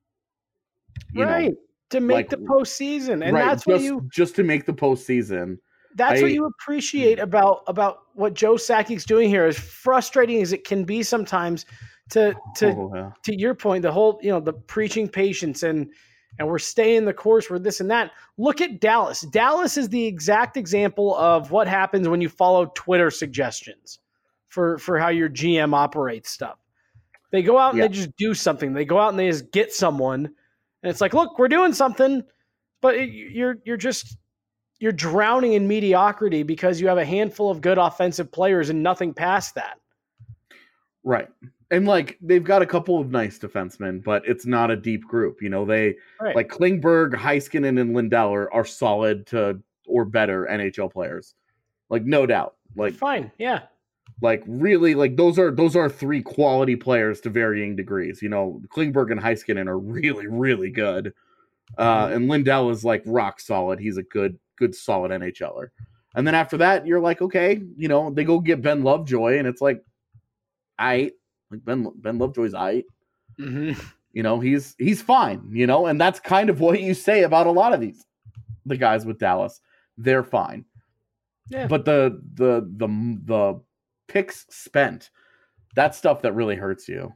[SPEAKER 5] you
[SPEAKER 1] right
[SPEAKER 5] know,
[SPEAKER 1] to make
[SPEAKER 5] like,
[SPEAKER 1] the postseason, and
[SPEAKER 5] right,
[SPEAKER 1] that's
[SPEAKER 5] just,
[SPEAKER 1] what you
[SPEAKER 5] just to make the postseason.
[SPEAKER 1] that's
[SPEAKER 5] I,
[SPEAKER 1] what you appreciate about about what Joe Sakic's doing here. As frustrating as it can be sometimes, to to
[SPEAKER 5] oh, yeah.
[SPEAKER 1] to your point, the whole, you know, the preaching patience and and we're staying the course for this and that. Look at Dallas. Dallas is the exact example of what happens when you follow Twitter suggestions for for how your G M operates stuff. They go out and
[SPEAKER 5] yeah.
[SPEAKER 1] they just do something. They go out and they just get someone, and it's like, look, we're doing something, but it, you're you're just you're drowning in mediocrity because you have a handful of good offensive players and nothing past that.
[SPEAKER 5] Right. And like they've got a couple of nice defensemen, but it's not a deep group. You know, they
[SPEAKER 1] Right.
[SPEAKER 5] like Klingberg, Heiskanen, and Lindell are, are solid to or better N H L players. Like no doubt. Like
[SPEAKER 1] Fine, yeah.
[SPEAKER 5] like really like those are those are three quality players to varying degrees. You know, Klingberg and Heiskanen are really, really good. Uh,
[SPEAKER 1] Mm-hmm.
[SPEAKER 5] and Lindell is like rock solid. He's a good, good, solid NHLer. And then after that, you're like, okay, you know, they go get Ben Lovejoy, and it's like, I like Ben Ben Lovejoy's I,
[SPEAKER 1] Mm-hmm.
[SPEAKER 5] you know, he's he's fine, you know, and that's kind of what you say about a lot of these the guys with Dallas. They're fine.
[SPEAKER 1] Yeah.
[SPEAKER 5] But the the the the picks spent, that's stuff that really hurts you.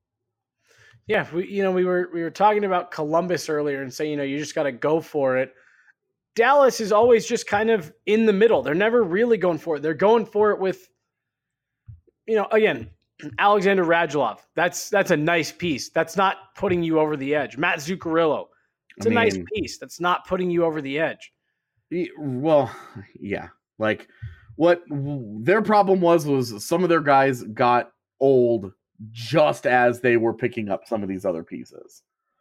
[SPEAKER 1] Yeah, we you know we were we were talking about Columbus earlier and saying, you know, you just got to go for it. Dallas is always just kind of in the middle. They're never really going for it. They're going for it with, you know, again, Alexander Radulov. That's that's a nice piece. That's not putting you over the edge. Matt Zuccarello. It's
[SPEAKER 5] I
[SPEAKER 1] a nice
[SPEAKER 5] mean-
[SPEAKER 1] piece. That's not putting you over the edge.
[SPEAKER 5] Y- Well, yeah. Like what their problem was was some of their guys got old just as they were picking up some of these other pieces.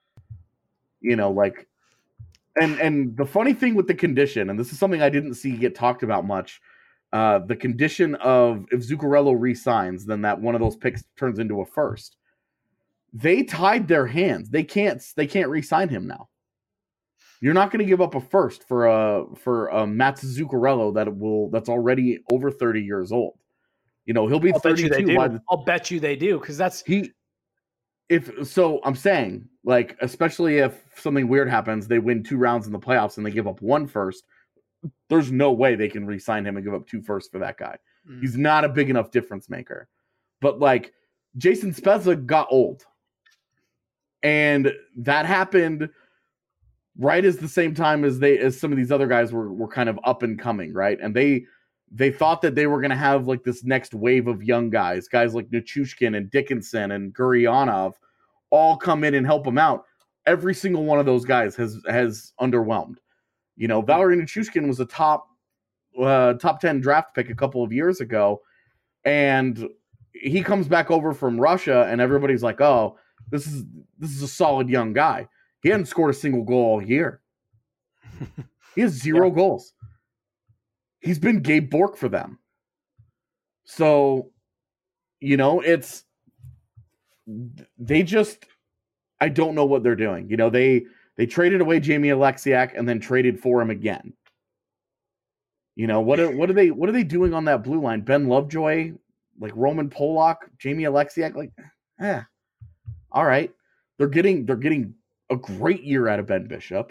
[SPEAKER 5] You know, like and and the funny thing with the condition, and this is something I didn't see get talked about much, uh, the condition of if Zuccarello re-signs, then that one of those picks turns into a first. They tied their hands. They can't they can't re-sign him now. You're not going to give up a first for a for a Matt Zuccarello that will that's already over thirty years old. You know, he'll be
[SPEAKER 1] I'll bet you they
[SPEAKER 5] thirty-two
[SPEAKER 1] do.
[SPEAKER 5] by the
[SPEAKER 1] I'll bet you they do because that's
[SPEAKER 5] he if so I'm saying, like, especially if something weird happens, they win two rounds in the playoffs and they give up one first, There's no way they can re-sign him and give up two firsts for that guy.
[SPEAKER 1] Mm.
[SPEAKER 5] He's not a big enough difference maker. But like Jason Spezza got old. And that happened right as the same time as they as some of these other guys were were kind of up and coming, right? And they they thought that they were going to have like this next wave of young guys, guys like Nichushkin and Dickinson and Gurionov, all come in and help them out. Every single one of those guys has has underwhelmed. You know, Valery Nichushkin was a top uh, top ten draft pick a couple of years ago, and he comes back over from Russia, and everybody's like, "Oh, this is this is a solid young guy." He hadn't scored a single goal all year. He has zero yeah. goals. He's been Gabe Bork for them. So, you know, it's they just I don't know what they're doing. You know, they they traded away Jamie Alexiak and then traded for him again. You know, what are what are they what are they doing on that blue line? Ben Lovejoy, like Roman Polak, Jamie Alexiak, like, eh. All right. They're getting they're getting a great year out of Ben Bishop.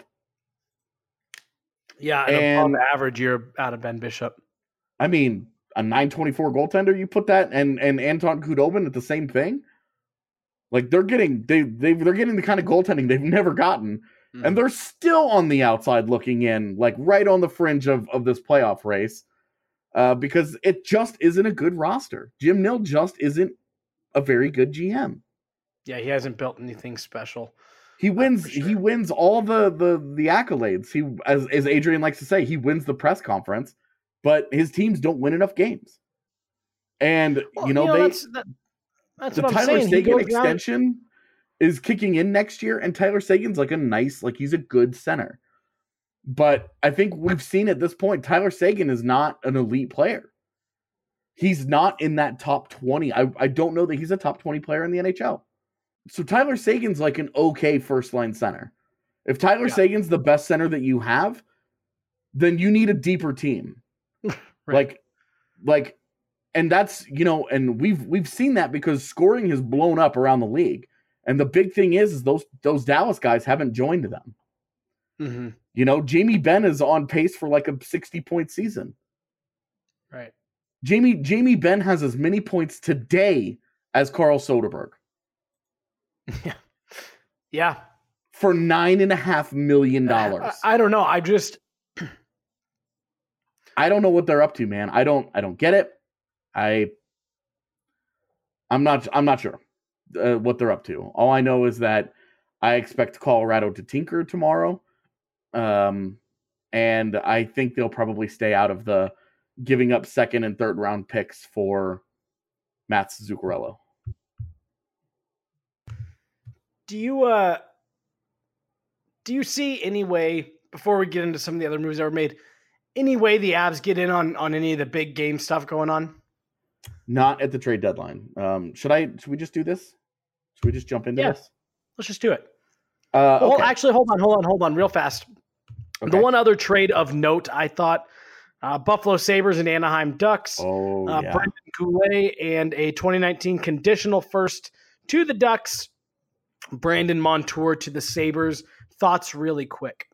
[SPEAKER 1] Yeah, and above average year out of Ben Bishop.
[SPEAKER 5] I mean, a nine twenty-four goaltender, you put that and and Anton Khudobin at the same thing. Like they're getting they they they're getting the kind of goaltending they've never gotten, mm. and they're still on the outside looking in, like right on the fringe of of this playoff race, uh, because it just isn't a good roster. Jim Nill just isn't a very good G M.
[SPEAKER 1] Yeah, he hasn't built anything special.
[SPEAKER 5] He wins. Sure. He wins all the, the the accolades. He, as as Adrian likes to say, he wins the press conference, but his teams don't win enough games. And well, you know, you know they
[SPEAKER 1] that's, that, that's
[SPEAKER 5] the
[SPEAKER 1] what
[SPEAKER 5] Tyler
[SPEAKER 1] I'm
[SPEAKER 5] Seguin extension down. is kicking in next year, and Tyler Seguin's like a nice, like he's a good center. But I think we've seen at this point, Tyler Seguin is not an elite player. He's not in that top twenty. I I don't know that he's a top twenty player in the N H L. So Tyler Seguin's like an okay first-line center. If Tyler yeah. Seguin's the best center that you have, then you need a deeper team. right. Like, like, and that's, you know, and we've we've seen that because scoring has blown up around the league. And the big thing is, is those those Dallas guys haven't joined them.
[SPEAKER 1] Mm-hmm.
[SPEAKER 5] You know, Jamie Benn is on pace for like a sixty-point season.
[SPEAKER 1] Right.
[SPEAKER 5] Jamie Jamie Benn has as many points today as Carl Soderberg.
[SPEAKER 1] Yeah. Yeah.
[SPEAKER 5] For nine and a half million dollars.
[SPEAKER 1] I, I don't know. I just
[SPEAKER 5] I don't know what they're up to, man. I don't I don't get it. I I'm not I'm not sure uh, what they're up to. All I know is that I expect Colorado to tinker tomorrow. Um and I think they'll probably stay out of the giving up second and third round picks for Mats Zuccarello.
[SPEAKER 1] Do you uh do you see any way, before we get into some of the other moves that were made, any way the Avs get in on, on any of the big game stuff going on?
[SPEAKER 5] Not at the trade deadline. Um, should I? Should we just do this? Should we just jump into
[SPEAKER 1] yeah.
[SPEAKER 5] this?
[SPEAKER 1] Let's just do it.
[SPEAKER 5] Uh, okay.
[SPEAKER 1] Well, actually, hold on, hold on, hold on, real fast. Okay. The one other trade of note, I thought, uh, Buffalo Sabres and Anaheim Ducks.
[SPEAKER 5] Oh,
[SPEAKER 1] uh,
[SPEAKER 5] yeah.
[SPEAKER 1] Brendan Goulet and a twenty nineteen conditional first to the Ducks. Brandon Montour to the Sabres. Thoughts really quick.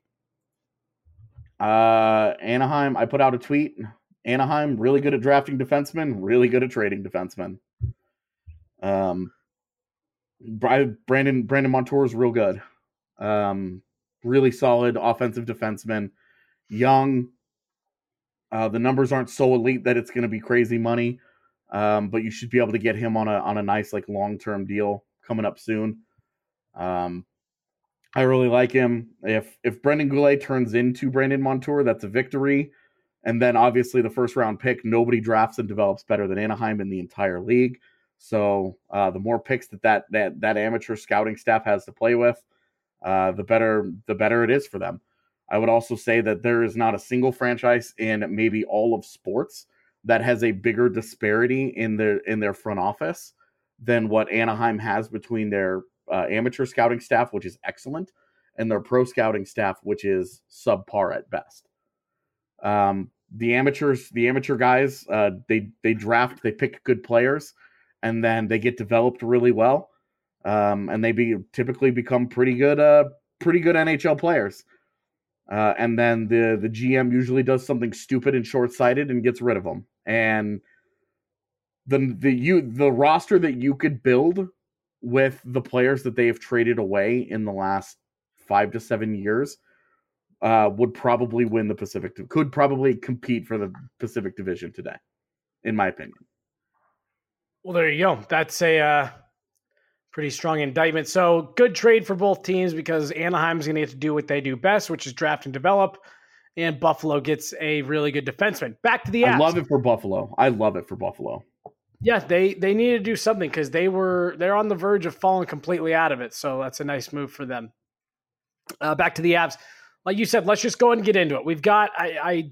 [SPEAKER 5] Uh, Anaheim, I put out a tweet. Anaheim, really good at drafting defensemen, really good at trading defensemen. Um, Brandon Brandon Montour is real good. Um, really solid offensive defenseman. Young. Uh, the numbers aren't so elite that it's going to be crazy money, um, but you should be able to get him on a on a nice like long term deal coming up soon. Um, I really like him. If if Brendan Goulet turns into Brandon Montour, that's a victory. And then obviously the first round pick, nobody drafts and develops better than Anaheim in the entire league. So uh, the more picks that that, that that amateur scouting staff has to play with, uh, the better the better it is for them. I would also say that there is not a single franchise in maybe all of sports that has a bigger disparity in their in their front office than what Anaheim has between their uh, amateur scouting staff, which is excellent, and their pro scouting staff, which is subpar at best. Um, the amateurs, the amateur guys, uh, they they draft, they pick good players, and then they get developed really well, um, and they be typically become pretty good, uh, pretty good N H L players. Uh, and then the, the G M usually does something stupid and short-sighted and gets rid of them. And the the you the roster that you could build with the players that they have traded away in the last five to seven years uh, would probably win the Pacific. Could probably compete for the Pacific Division today, in my opinion.
[SPEAKER 1] Well, there you go. That's a uh, pretty strong indictment. So good trade for both teams because Anaheim's going to get to do what they do best, which is draft and develop, and Buffalo gets a really good defenseman. Back to the Avs.
[SPEAKER 5] I love it for Buffalo. I love it for Buffalo.
[SPEAKER 1] Yeah, they they need to do something because they were they're on the verge of falling completely out of it. So that's a nice move for them. Uh, back to the Avs, like you said, let's just go ahead and get into it. We've got I, I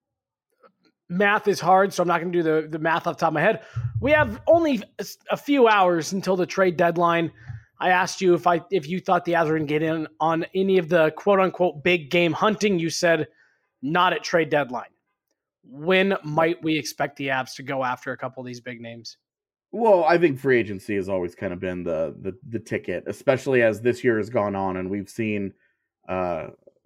[SPEAKER 1] math is hard, so I'm not going to do the the math off the top of my head. We have only a few hours until the trade deadline. I asked you if I if you thought the Avs were going to get in on any of the quote unquote big game hunting. You said not at trade deadline. When might we expect the Avs to go after a couple of these big names?
[SPEAKER 5] Well, I think free agency has always kind of been the the, the ticket, especially as this year has gone on and we've seen uh,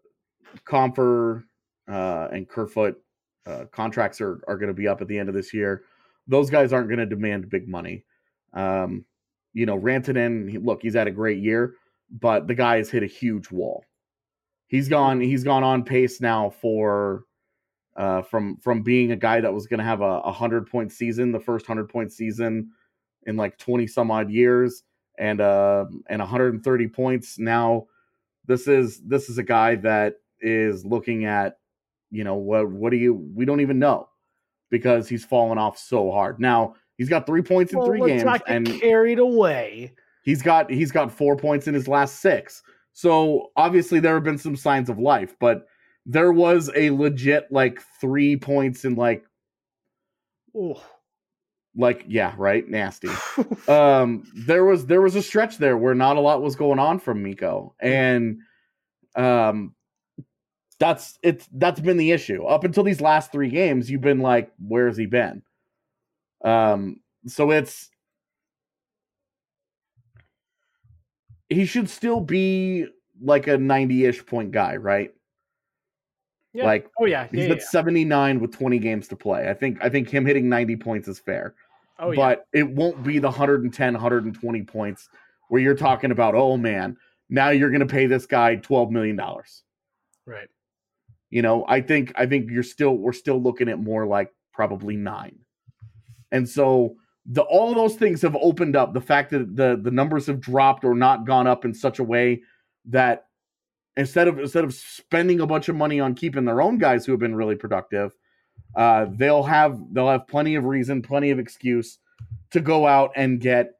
[SPEAKER 5] Compher uh, and Kerfoot uh, contracts are, are going to be up at the end of this year. Those guys aren't going to demand big money. Um, you know, Rantanen, he, look, he's had a great year, but the guy has hit a huge wall. He's gone. He's gone on pace now for. Uh, from from being a guy that was going to have a, a hundred point season, the first hundred point season in like twenty some odd years, and uh, and one hundred thirty points. Now, this is this is a guy that is looking at, you know, what what do you? We don't even know because he's fallen off so hard. Now he's got three points in
[SPEAKER 1] well,
[SPEAKER 5] three
[SPEAKER 1] let's
[SPEAKER 5] games,
[SPEAKER 1] not get
[SPEAKER 5] and
[SPEAKER 1] carried away.
[SPEAKER 5] He's got he's got four points in his last six. So obviously there have been some signs of life, but. There was a legit like three points in like,
[SPEAKER 1] Ooh.
[SPEAKER 5] like yeah, right, nasty. um, there was there was a stretch there where not a lot was going on from Mikko, and um, that's it's that's been the issue up until these last three games. You've been like, where's he been? Um, so it's he should still be like a ninety-ish point guy, right?
[SPEAKER 1] Yeah.
[SPEAKER 5] Like,
[SPEAKER 1] oh yeah,
[SPEAKER 5] he's
[SPEAKER 1] yeah,
[SPEAKER 5] at
[SPEAKER 1] yeah.
[SPEAKER 5] seventy-nine with twenty games to play. I think I think him hitting ninety points is fair.
[SPEAKER 1] Oh yeah.
[SPEAKER 5] But it won't be the one hundred ten, one hundred twenty points where you're talking about, oh man, now you're going to pay this guy twelve million dollars.
[SPEAKER 1] Right.
[SPEAKER 5] You know, I think I think you're still we're still looking at more like probably nine. And so the all of those things have opened up. The fact that the the numbers have dropped or not gone up in such a way that Instead of instead of spending a bunch of money on keeping their own guys who have been really productive, uh, they'll have they'll have plenty of reason, plenty of excuse to go out and get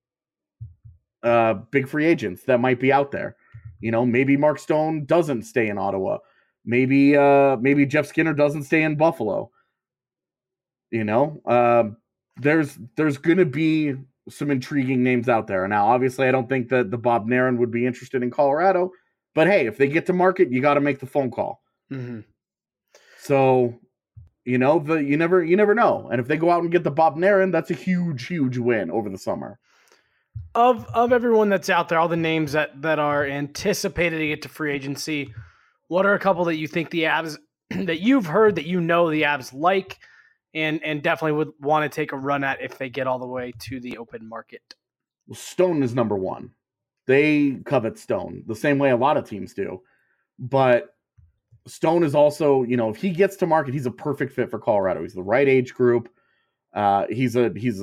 [SPEAKER 5] uh, big free agents that might be out there. You know, maybe Mark Stone doesn't stay in Ottawa. Maybe uh, maybe Jeff Skinner doesn't stay in Buffalo. You know, uh, there's there's going to be some intriguing names out there. Now, obviously, I don't think that the Bob Nairn would be interested in Colorado. But hey, if they get to market, you got to make the phone call.
[SPEAKER 1] Mm-hmm.
[SPEAKER 5] So, you know, the you never you never know. And if they go out and get the Bob Nairn, that's a huge, huge win over the summer.
[SPEAKER 1] Of of everyone that's out there, all the names that, that are anticipated to get to free agency, what are a couple that you think the Avs that you've heard that you know the Avs like and and definitely would want to take a run at if they get all the way to the open market?
[SPEAKER 5] Well, Stone is number one. They covet Stone the same way a lot of teams do. But Stone is also, you know, if he gets to market, he's a perfect fit for Colorado. He's the right age group. Uh, he's a he's a,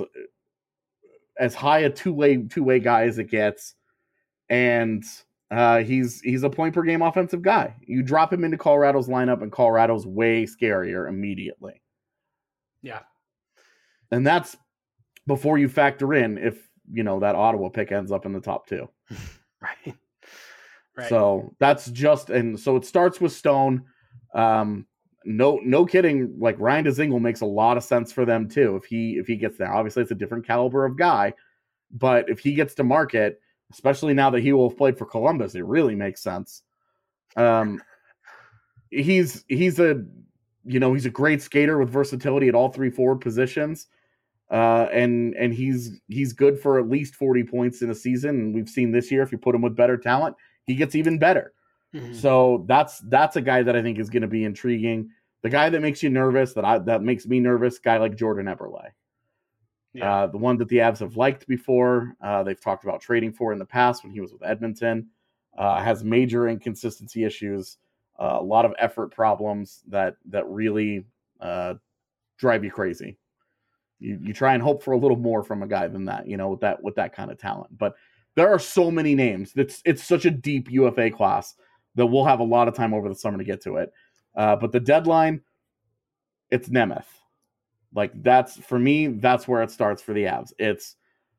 [SPEAKER 5] as high a two-way two-way guy as it gets. And uh, he's he's a point per game offensive guy. You drop him into Colorado's lineup and Colorado's way scarier immediately.
[SPEAKER 1] Yeah.
[SPEAKER 5] And that's before you factor in if, you know, that Ottawa pick ends up in the top two.
[SPEAKER 1] Right. Right.
[SPEAKER 5] So that's just, and so it starts with Stone. Um, no, no kidding. Like Ryan Dzingel makes a lot of sense for them too. If he, if he gets there, obviously it's a different caliber of guy, but if he gets to market, especially now that he will have played for Columbus, it really makes sense. Um, he's, he's a, you know, he's a great skater with versatility at all three forward positions. Uh, and and he's he's good for at least forty points in a season. And we've seen this year, if you put him with better talent, he gets even better.
[SPEAKER 1] Mm-hmm.
[SPEAKER 5] So that's that's a guy that I think is going to be intriguing. The guy that makes you nervous, that I that makes me nervous, guy like Jordan Eberle.
[SPEAKER 1] Yeah.
[SPEAKER 5] Uh, the one that the Avs have liked before, uh, they've talked about trading for in the past when he was with Edmonton, uh, has major inconsistency issues, uh, a lot of effort problems that that really uh, drive you crazy. You you try and hope for a little more from a guy than that, you know, with that with that kind of talent. But there are so many names. It's it's such a deep U F A class that we'll have a lot of time over the summer to get to it. Uh, but the deadline, it's Nemeth. Like that's for me, that's where it starts for the Avs. It's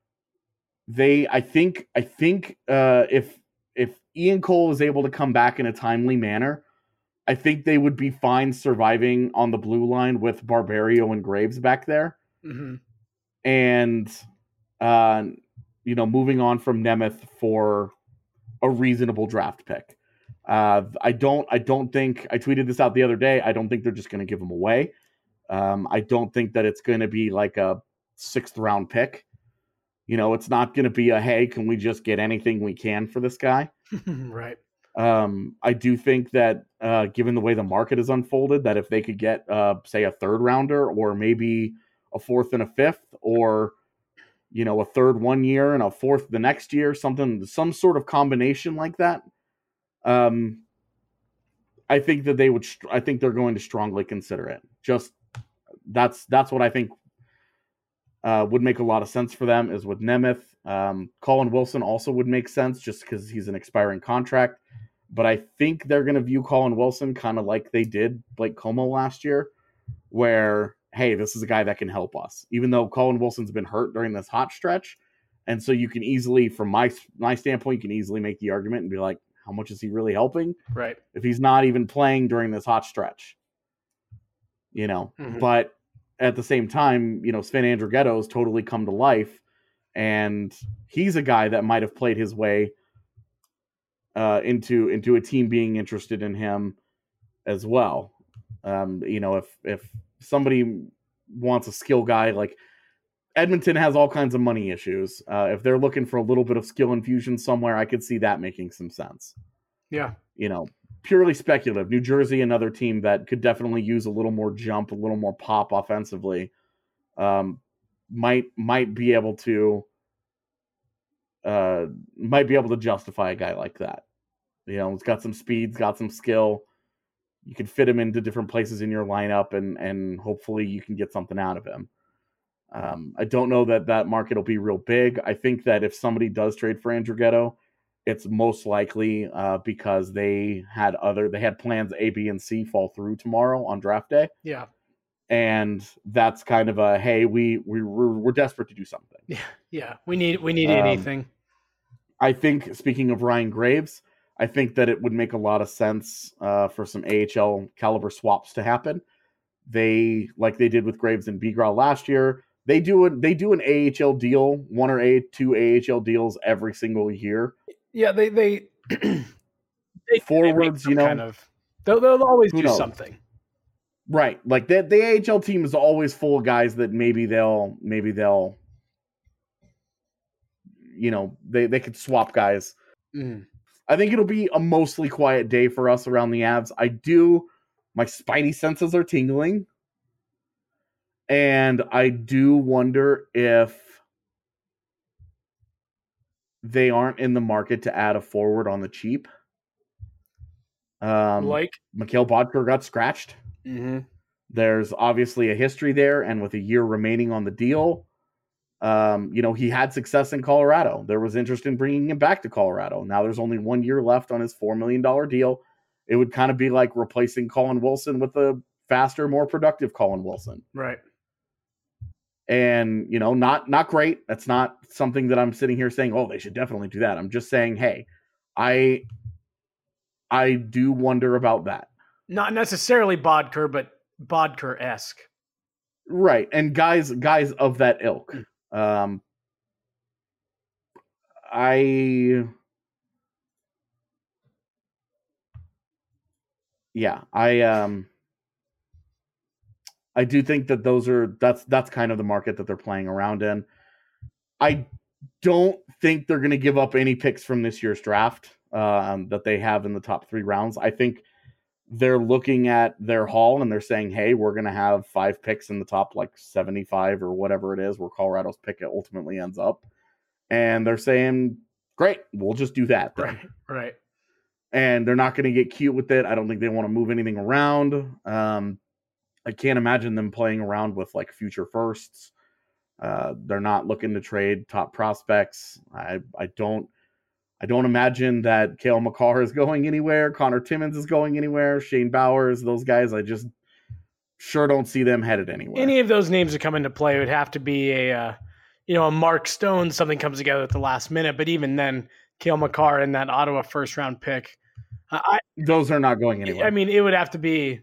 [SPEAKER 5] they. I think. I think uh, if if Ian Cole is able to come back in a timely manner, I think they would be fine surviving on the blue line with Barberio and Graves back there,
[SPEAKER 1] Mm-hmm.
[SPEAKER 5] and uh, you know, moving on from Nemeth for a reasonable draft pick. Uh, I don't. I don't think. I tweeted this out the other day. I don't think they're just going to give him away. Um, I don't think that it's going to be like a sixth round pick. You know, it's not going to be a, hey, can we just get anything we can for this guy?
[SPEAKER 1] Right.
[SPEAKER 5] Um, I do think that uh, given the way the market is unfolded, that if they could get, uh, say, a third rounder or maybe a fourth and a fifth, or, you know, a third one year and a fourth the next year, something, some sort of combination like that. Um, I think that they would, I think they're going to strongly consider it. Just, That's that's what I think uh, would make a lot of sense for them is with Nemeth. Um, Colin Wilson also would make sense just because he's an expiring contract. But I think they're going to view Colin Wilson kind of like they did Blake Como last year, where, hey, this is a guy that can help us. Even though Colin Wilson's been hurt during this hot stretch. And so you can easily, from my my standpoint, you can easily make the argument and be like, how much is he really helping?
[SPEAKER 1] Right.
[SPEAKER 5] If he's not even playing during this hot stretch. You know,
[SPEAKER 1] Mm-hmm.
[SPEAKER 5] but at the same time, you know, Sven Andrighetto's totally come to life, and he's a guy that might have played his way uh, into into a team being interested in him as well. Um, you know, if if somebody wants a skill guy, like Edmonton has all kinds of money issues. Uh, if they're looking for a little bit of skill infusion somewhere, I could see that making some sense.
[SPEAKER 1] Yeah.
[SPEAKER 5] You know, purely speculative. New Jersey, another team that could definitely use a little more jump, a little more pop offensively, um, might might be able to uh, might be able to justify a guy like that. You know, he's got some speed, he's got some skill. You can fit him into different places in your lineup, and and hopefully you can get something out of him. Um, I don't know that that market will be real big. I think that if somebody does trade for Andrighetto, it's most likely uh, because they had other they had plans A, B, and C fall through tomorrow on draft day.
[SPEAKER 1] Yeah.
[SPEAKER 5] And that's kind of a, hey, we we we're, we're desperate to do something.
[SPEAKER 1] Yeah. Yeah. We need we need
[SPEAKER 5] Um,
[SPEAKER 1] anything.
[SPEAKER 5] I think, speaking of Ryan Graves, I think that it would make a lot of sense uh, for some A H L caliber swaps to happen. They, like they did with Graves and Bigra last year, they do a, they do an A H L deal, one or a two A H L deals every single year.
[SPEAKER 1] Yeah, they they, they
[SPEAKER 5] Forwards,
[SPEAKER 1] they
[SPEAKER 5] you know,
[SPEAKER 1] kind of they'll, they'll always
[SPEAKER 5] who
[SPEAKER 1] do
[SPEAKER 5] knows?
[SPEAKER 1] something.
[SPEAKER 5] Right. Like the, the A H L team is always full of guys that maybe they'll, maybe they'll, you know, they, they could swap guys.
[SPEAKER 1] Mm.
[SPEAKER 5] I think it'll be a mostly quiet day for us around the Avs. I do, my spidey senses are tingling. And I do wonder if they aren't in the market to add a forward on the cheap. Um,
[SPEAKER 1] Like,
[SPEAKER 5] Mikhail Bodker got scratched.
[SPEAKER 1] mm-hmm.
[SPEAKER 5] There's obviously a history there, and with a year remaining on the deal, um, you know, he had success in Colorado. There was interest in bringing him back to Colorado. Now there's only one year left on his four million dollars deal. It would kind of be like replacing Colin Wilson with a faster, more productive Colin Wilson.
[SPEAKER 1] Right.
[SPEAKER 5] And, you know, not not great. That's not something that I'm sitting here saying, oh, they should definitely do that. I'm just saying, hey, I I do wonder about that.
[SPEAKER 1] Not necessarily Bodker, but Bodker-esque.
[SPEAKER 5] Right. And guys guys of that ilk. Um I Yeah, I um I do think that those are that's that's kind of the market that they're playing around in. I don't think they're going to give up any picks from this year's draft. um, that they have in the top three rounds. I think they're looking at their haul and they're saying, hey, we're going to have five picks in the top like seventy-five or whatever it is where Colorado's pick ultimately ends up. And they're saying, great, we'll just do that then.
[SPEAKER 1] Right, right.
[SPEAKER 5] And they're not going to get cute with it. I don't think they want to move anything around. Um, I can't imagine them playing around with like future firsts. Uh, they're not looking to trade top prospects. I, I don't I don't imagine that Cale Makar is going anywhere. Connor Timmins is going anywhere. Shane Bowers, those guys, I just sure don't see them headed anywhere.
[SPEAKER 1] Any of those names that come into play, it would have to be a, uh, you know, a Mark Stone, something comes together at the last minute. But even then, Cale Makar and that Ottawa first round pick, I,
[SPEAKER 5] those are not going anywhere.
[SPEAKER 1] I mean, it would have to be.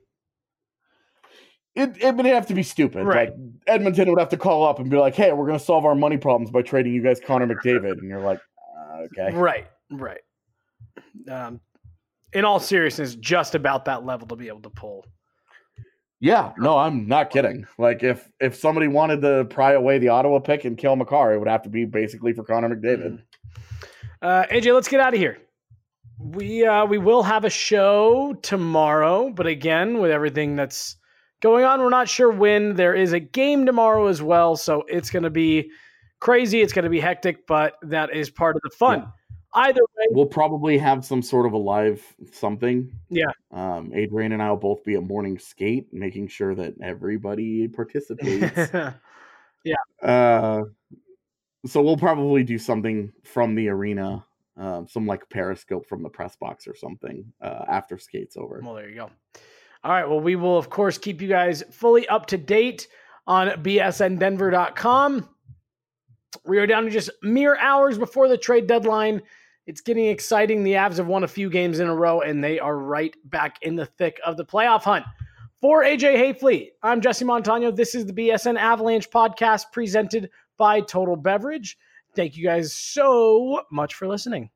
[SPEAKER 5] It, it would have to be stupid.
[SPEAKER 1] Right.
[SPEAKER 5] Like Edmonton would have to call up and be like, hey, we're going to solve our money problems by trading you guys Connor McDavid. And you're like, uh, okay.
[SPEAKER 1] Right, right. Um, in all seriousness, just about that level to be able to pull.
[SPEAKER 5] Yeah, no, I'm not kidding. Like if if somebody wanted to pry away the Ottawa pick and kill Makar, it would have to be basically for Connor McDavid.
[SPEAKER 1] Uh, A J, let's get out of here. We uh, we will have a show tomorrow, but again, with everything that's going on, we're not sure when. There is a game tomorrow as well, so it's going to be crazy. It's going to be hectic, but that is part of the fun.
[SPEAKER 5] Yeah.
[SPEAKER 1] Either way,
[SPEAKER 5] we'll probably have some sort of a live something.
[SPEAKER 1] Yeah.
[SPEAKER 5] Um, Adrian and I will both be at morning skate, making sure that everybody participates.
[SPEAKER 1] yeah.
[SPEAKER 5] Uh, so we'll probably do something from the arena, um, some like Periscope from the press box or something uh, after skate's over.
[SPEAKER 1] Well, there you go. All right. Well, we will, of course, keep you guys fully up to date on B S N Denver dot com. We are down to just mere hours before the trade deadline. It's getting exciting. The Avs have won a few games in a row, and they are right back in the thick of the playoff hunt. For A J Hayfleet, I'm Jesse Montano. This is the B S N Avalanche podcast presented by Total Beverage. Thank you guys so much for listening.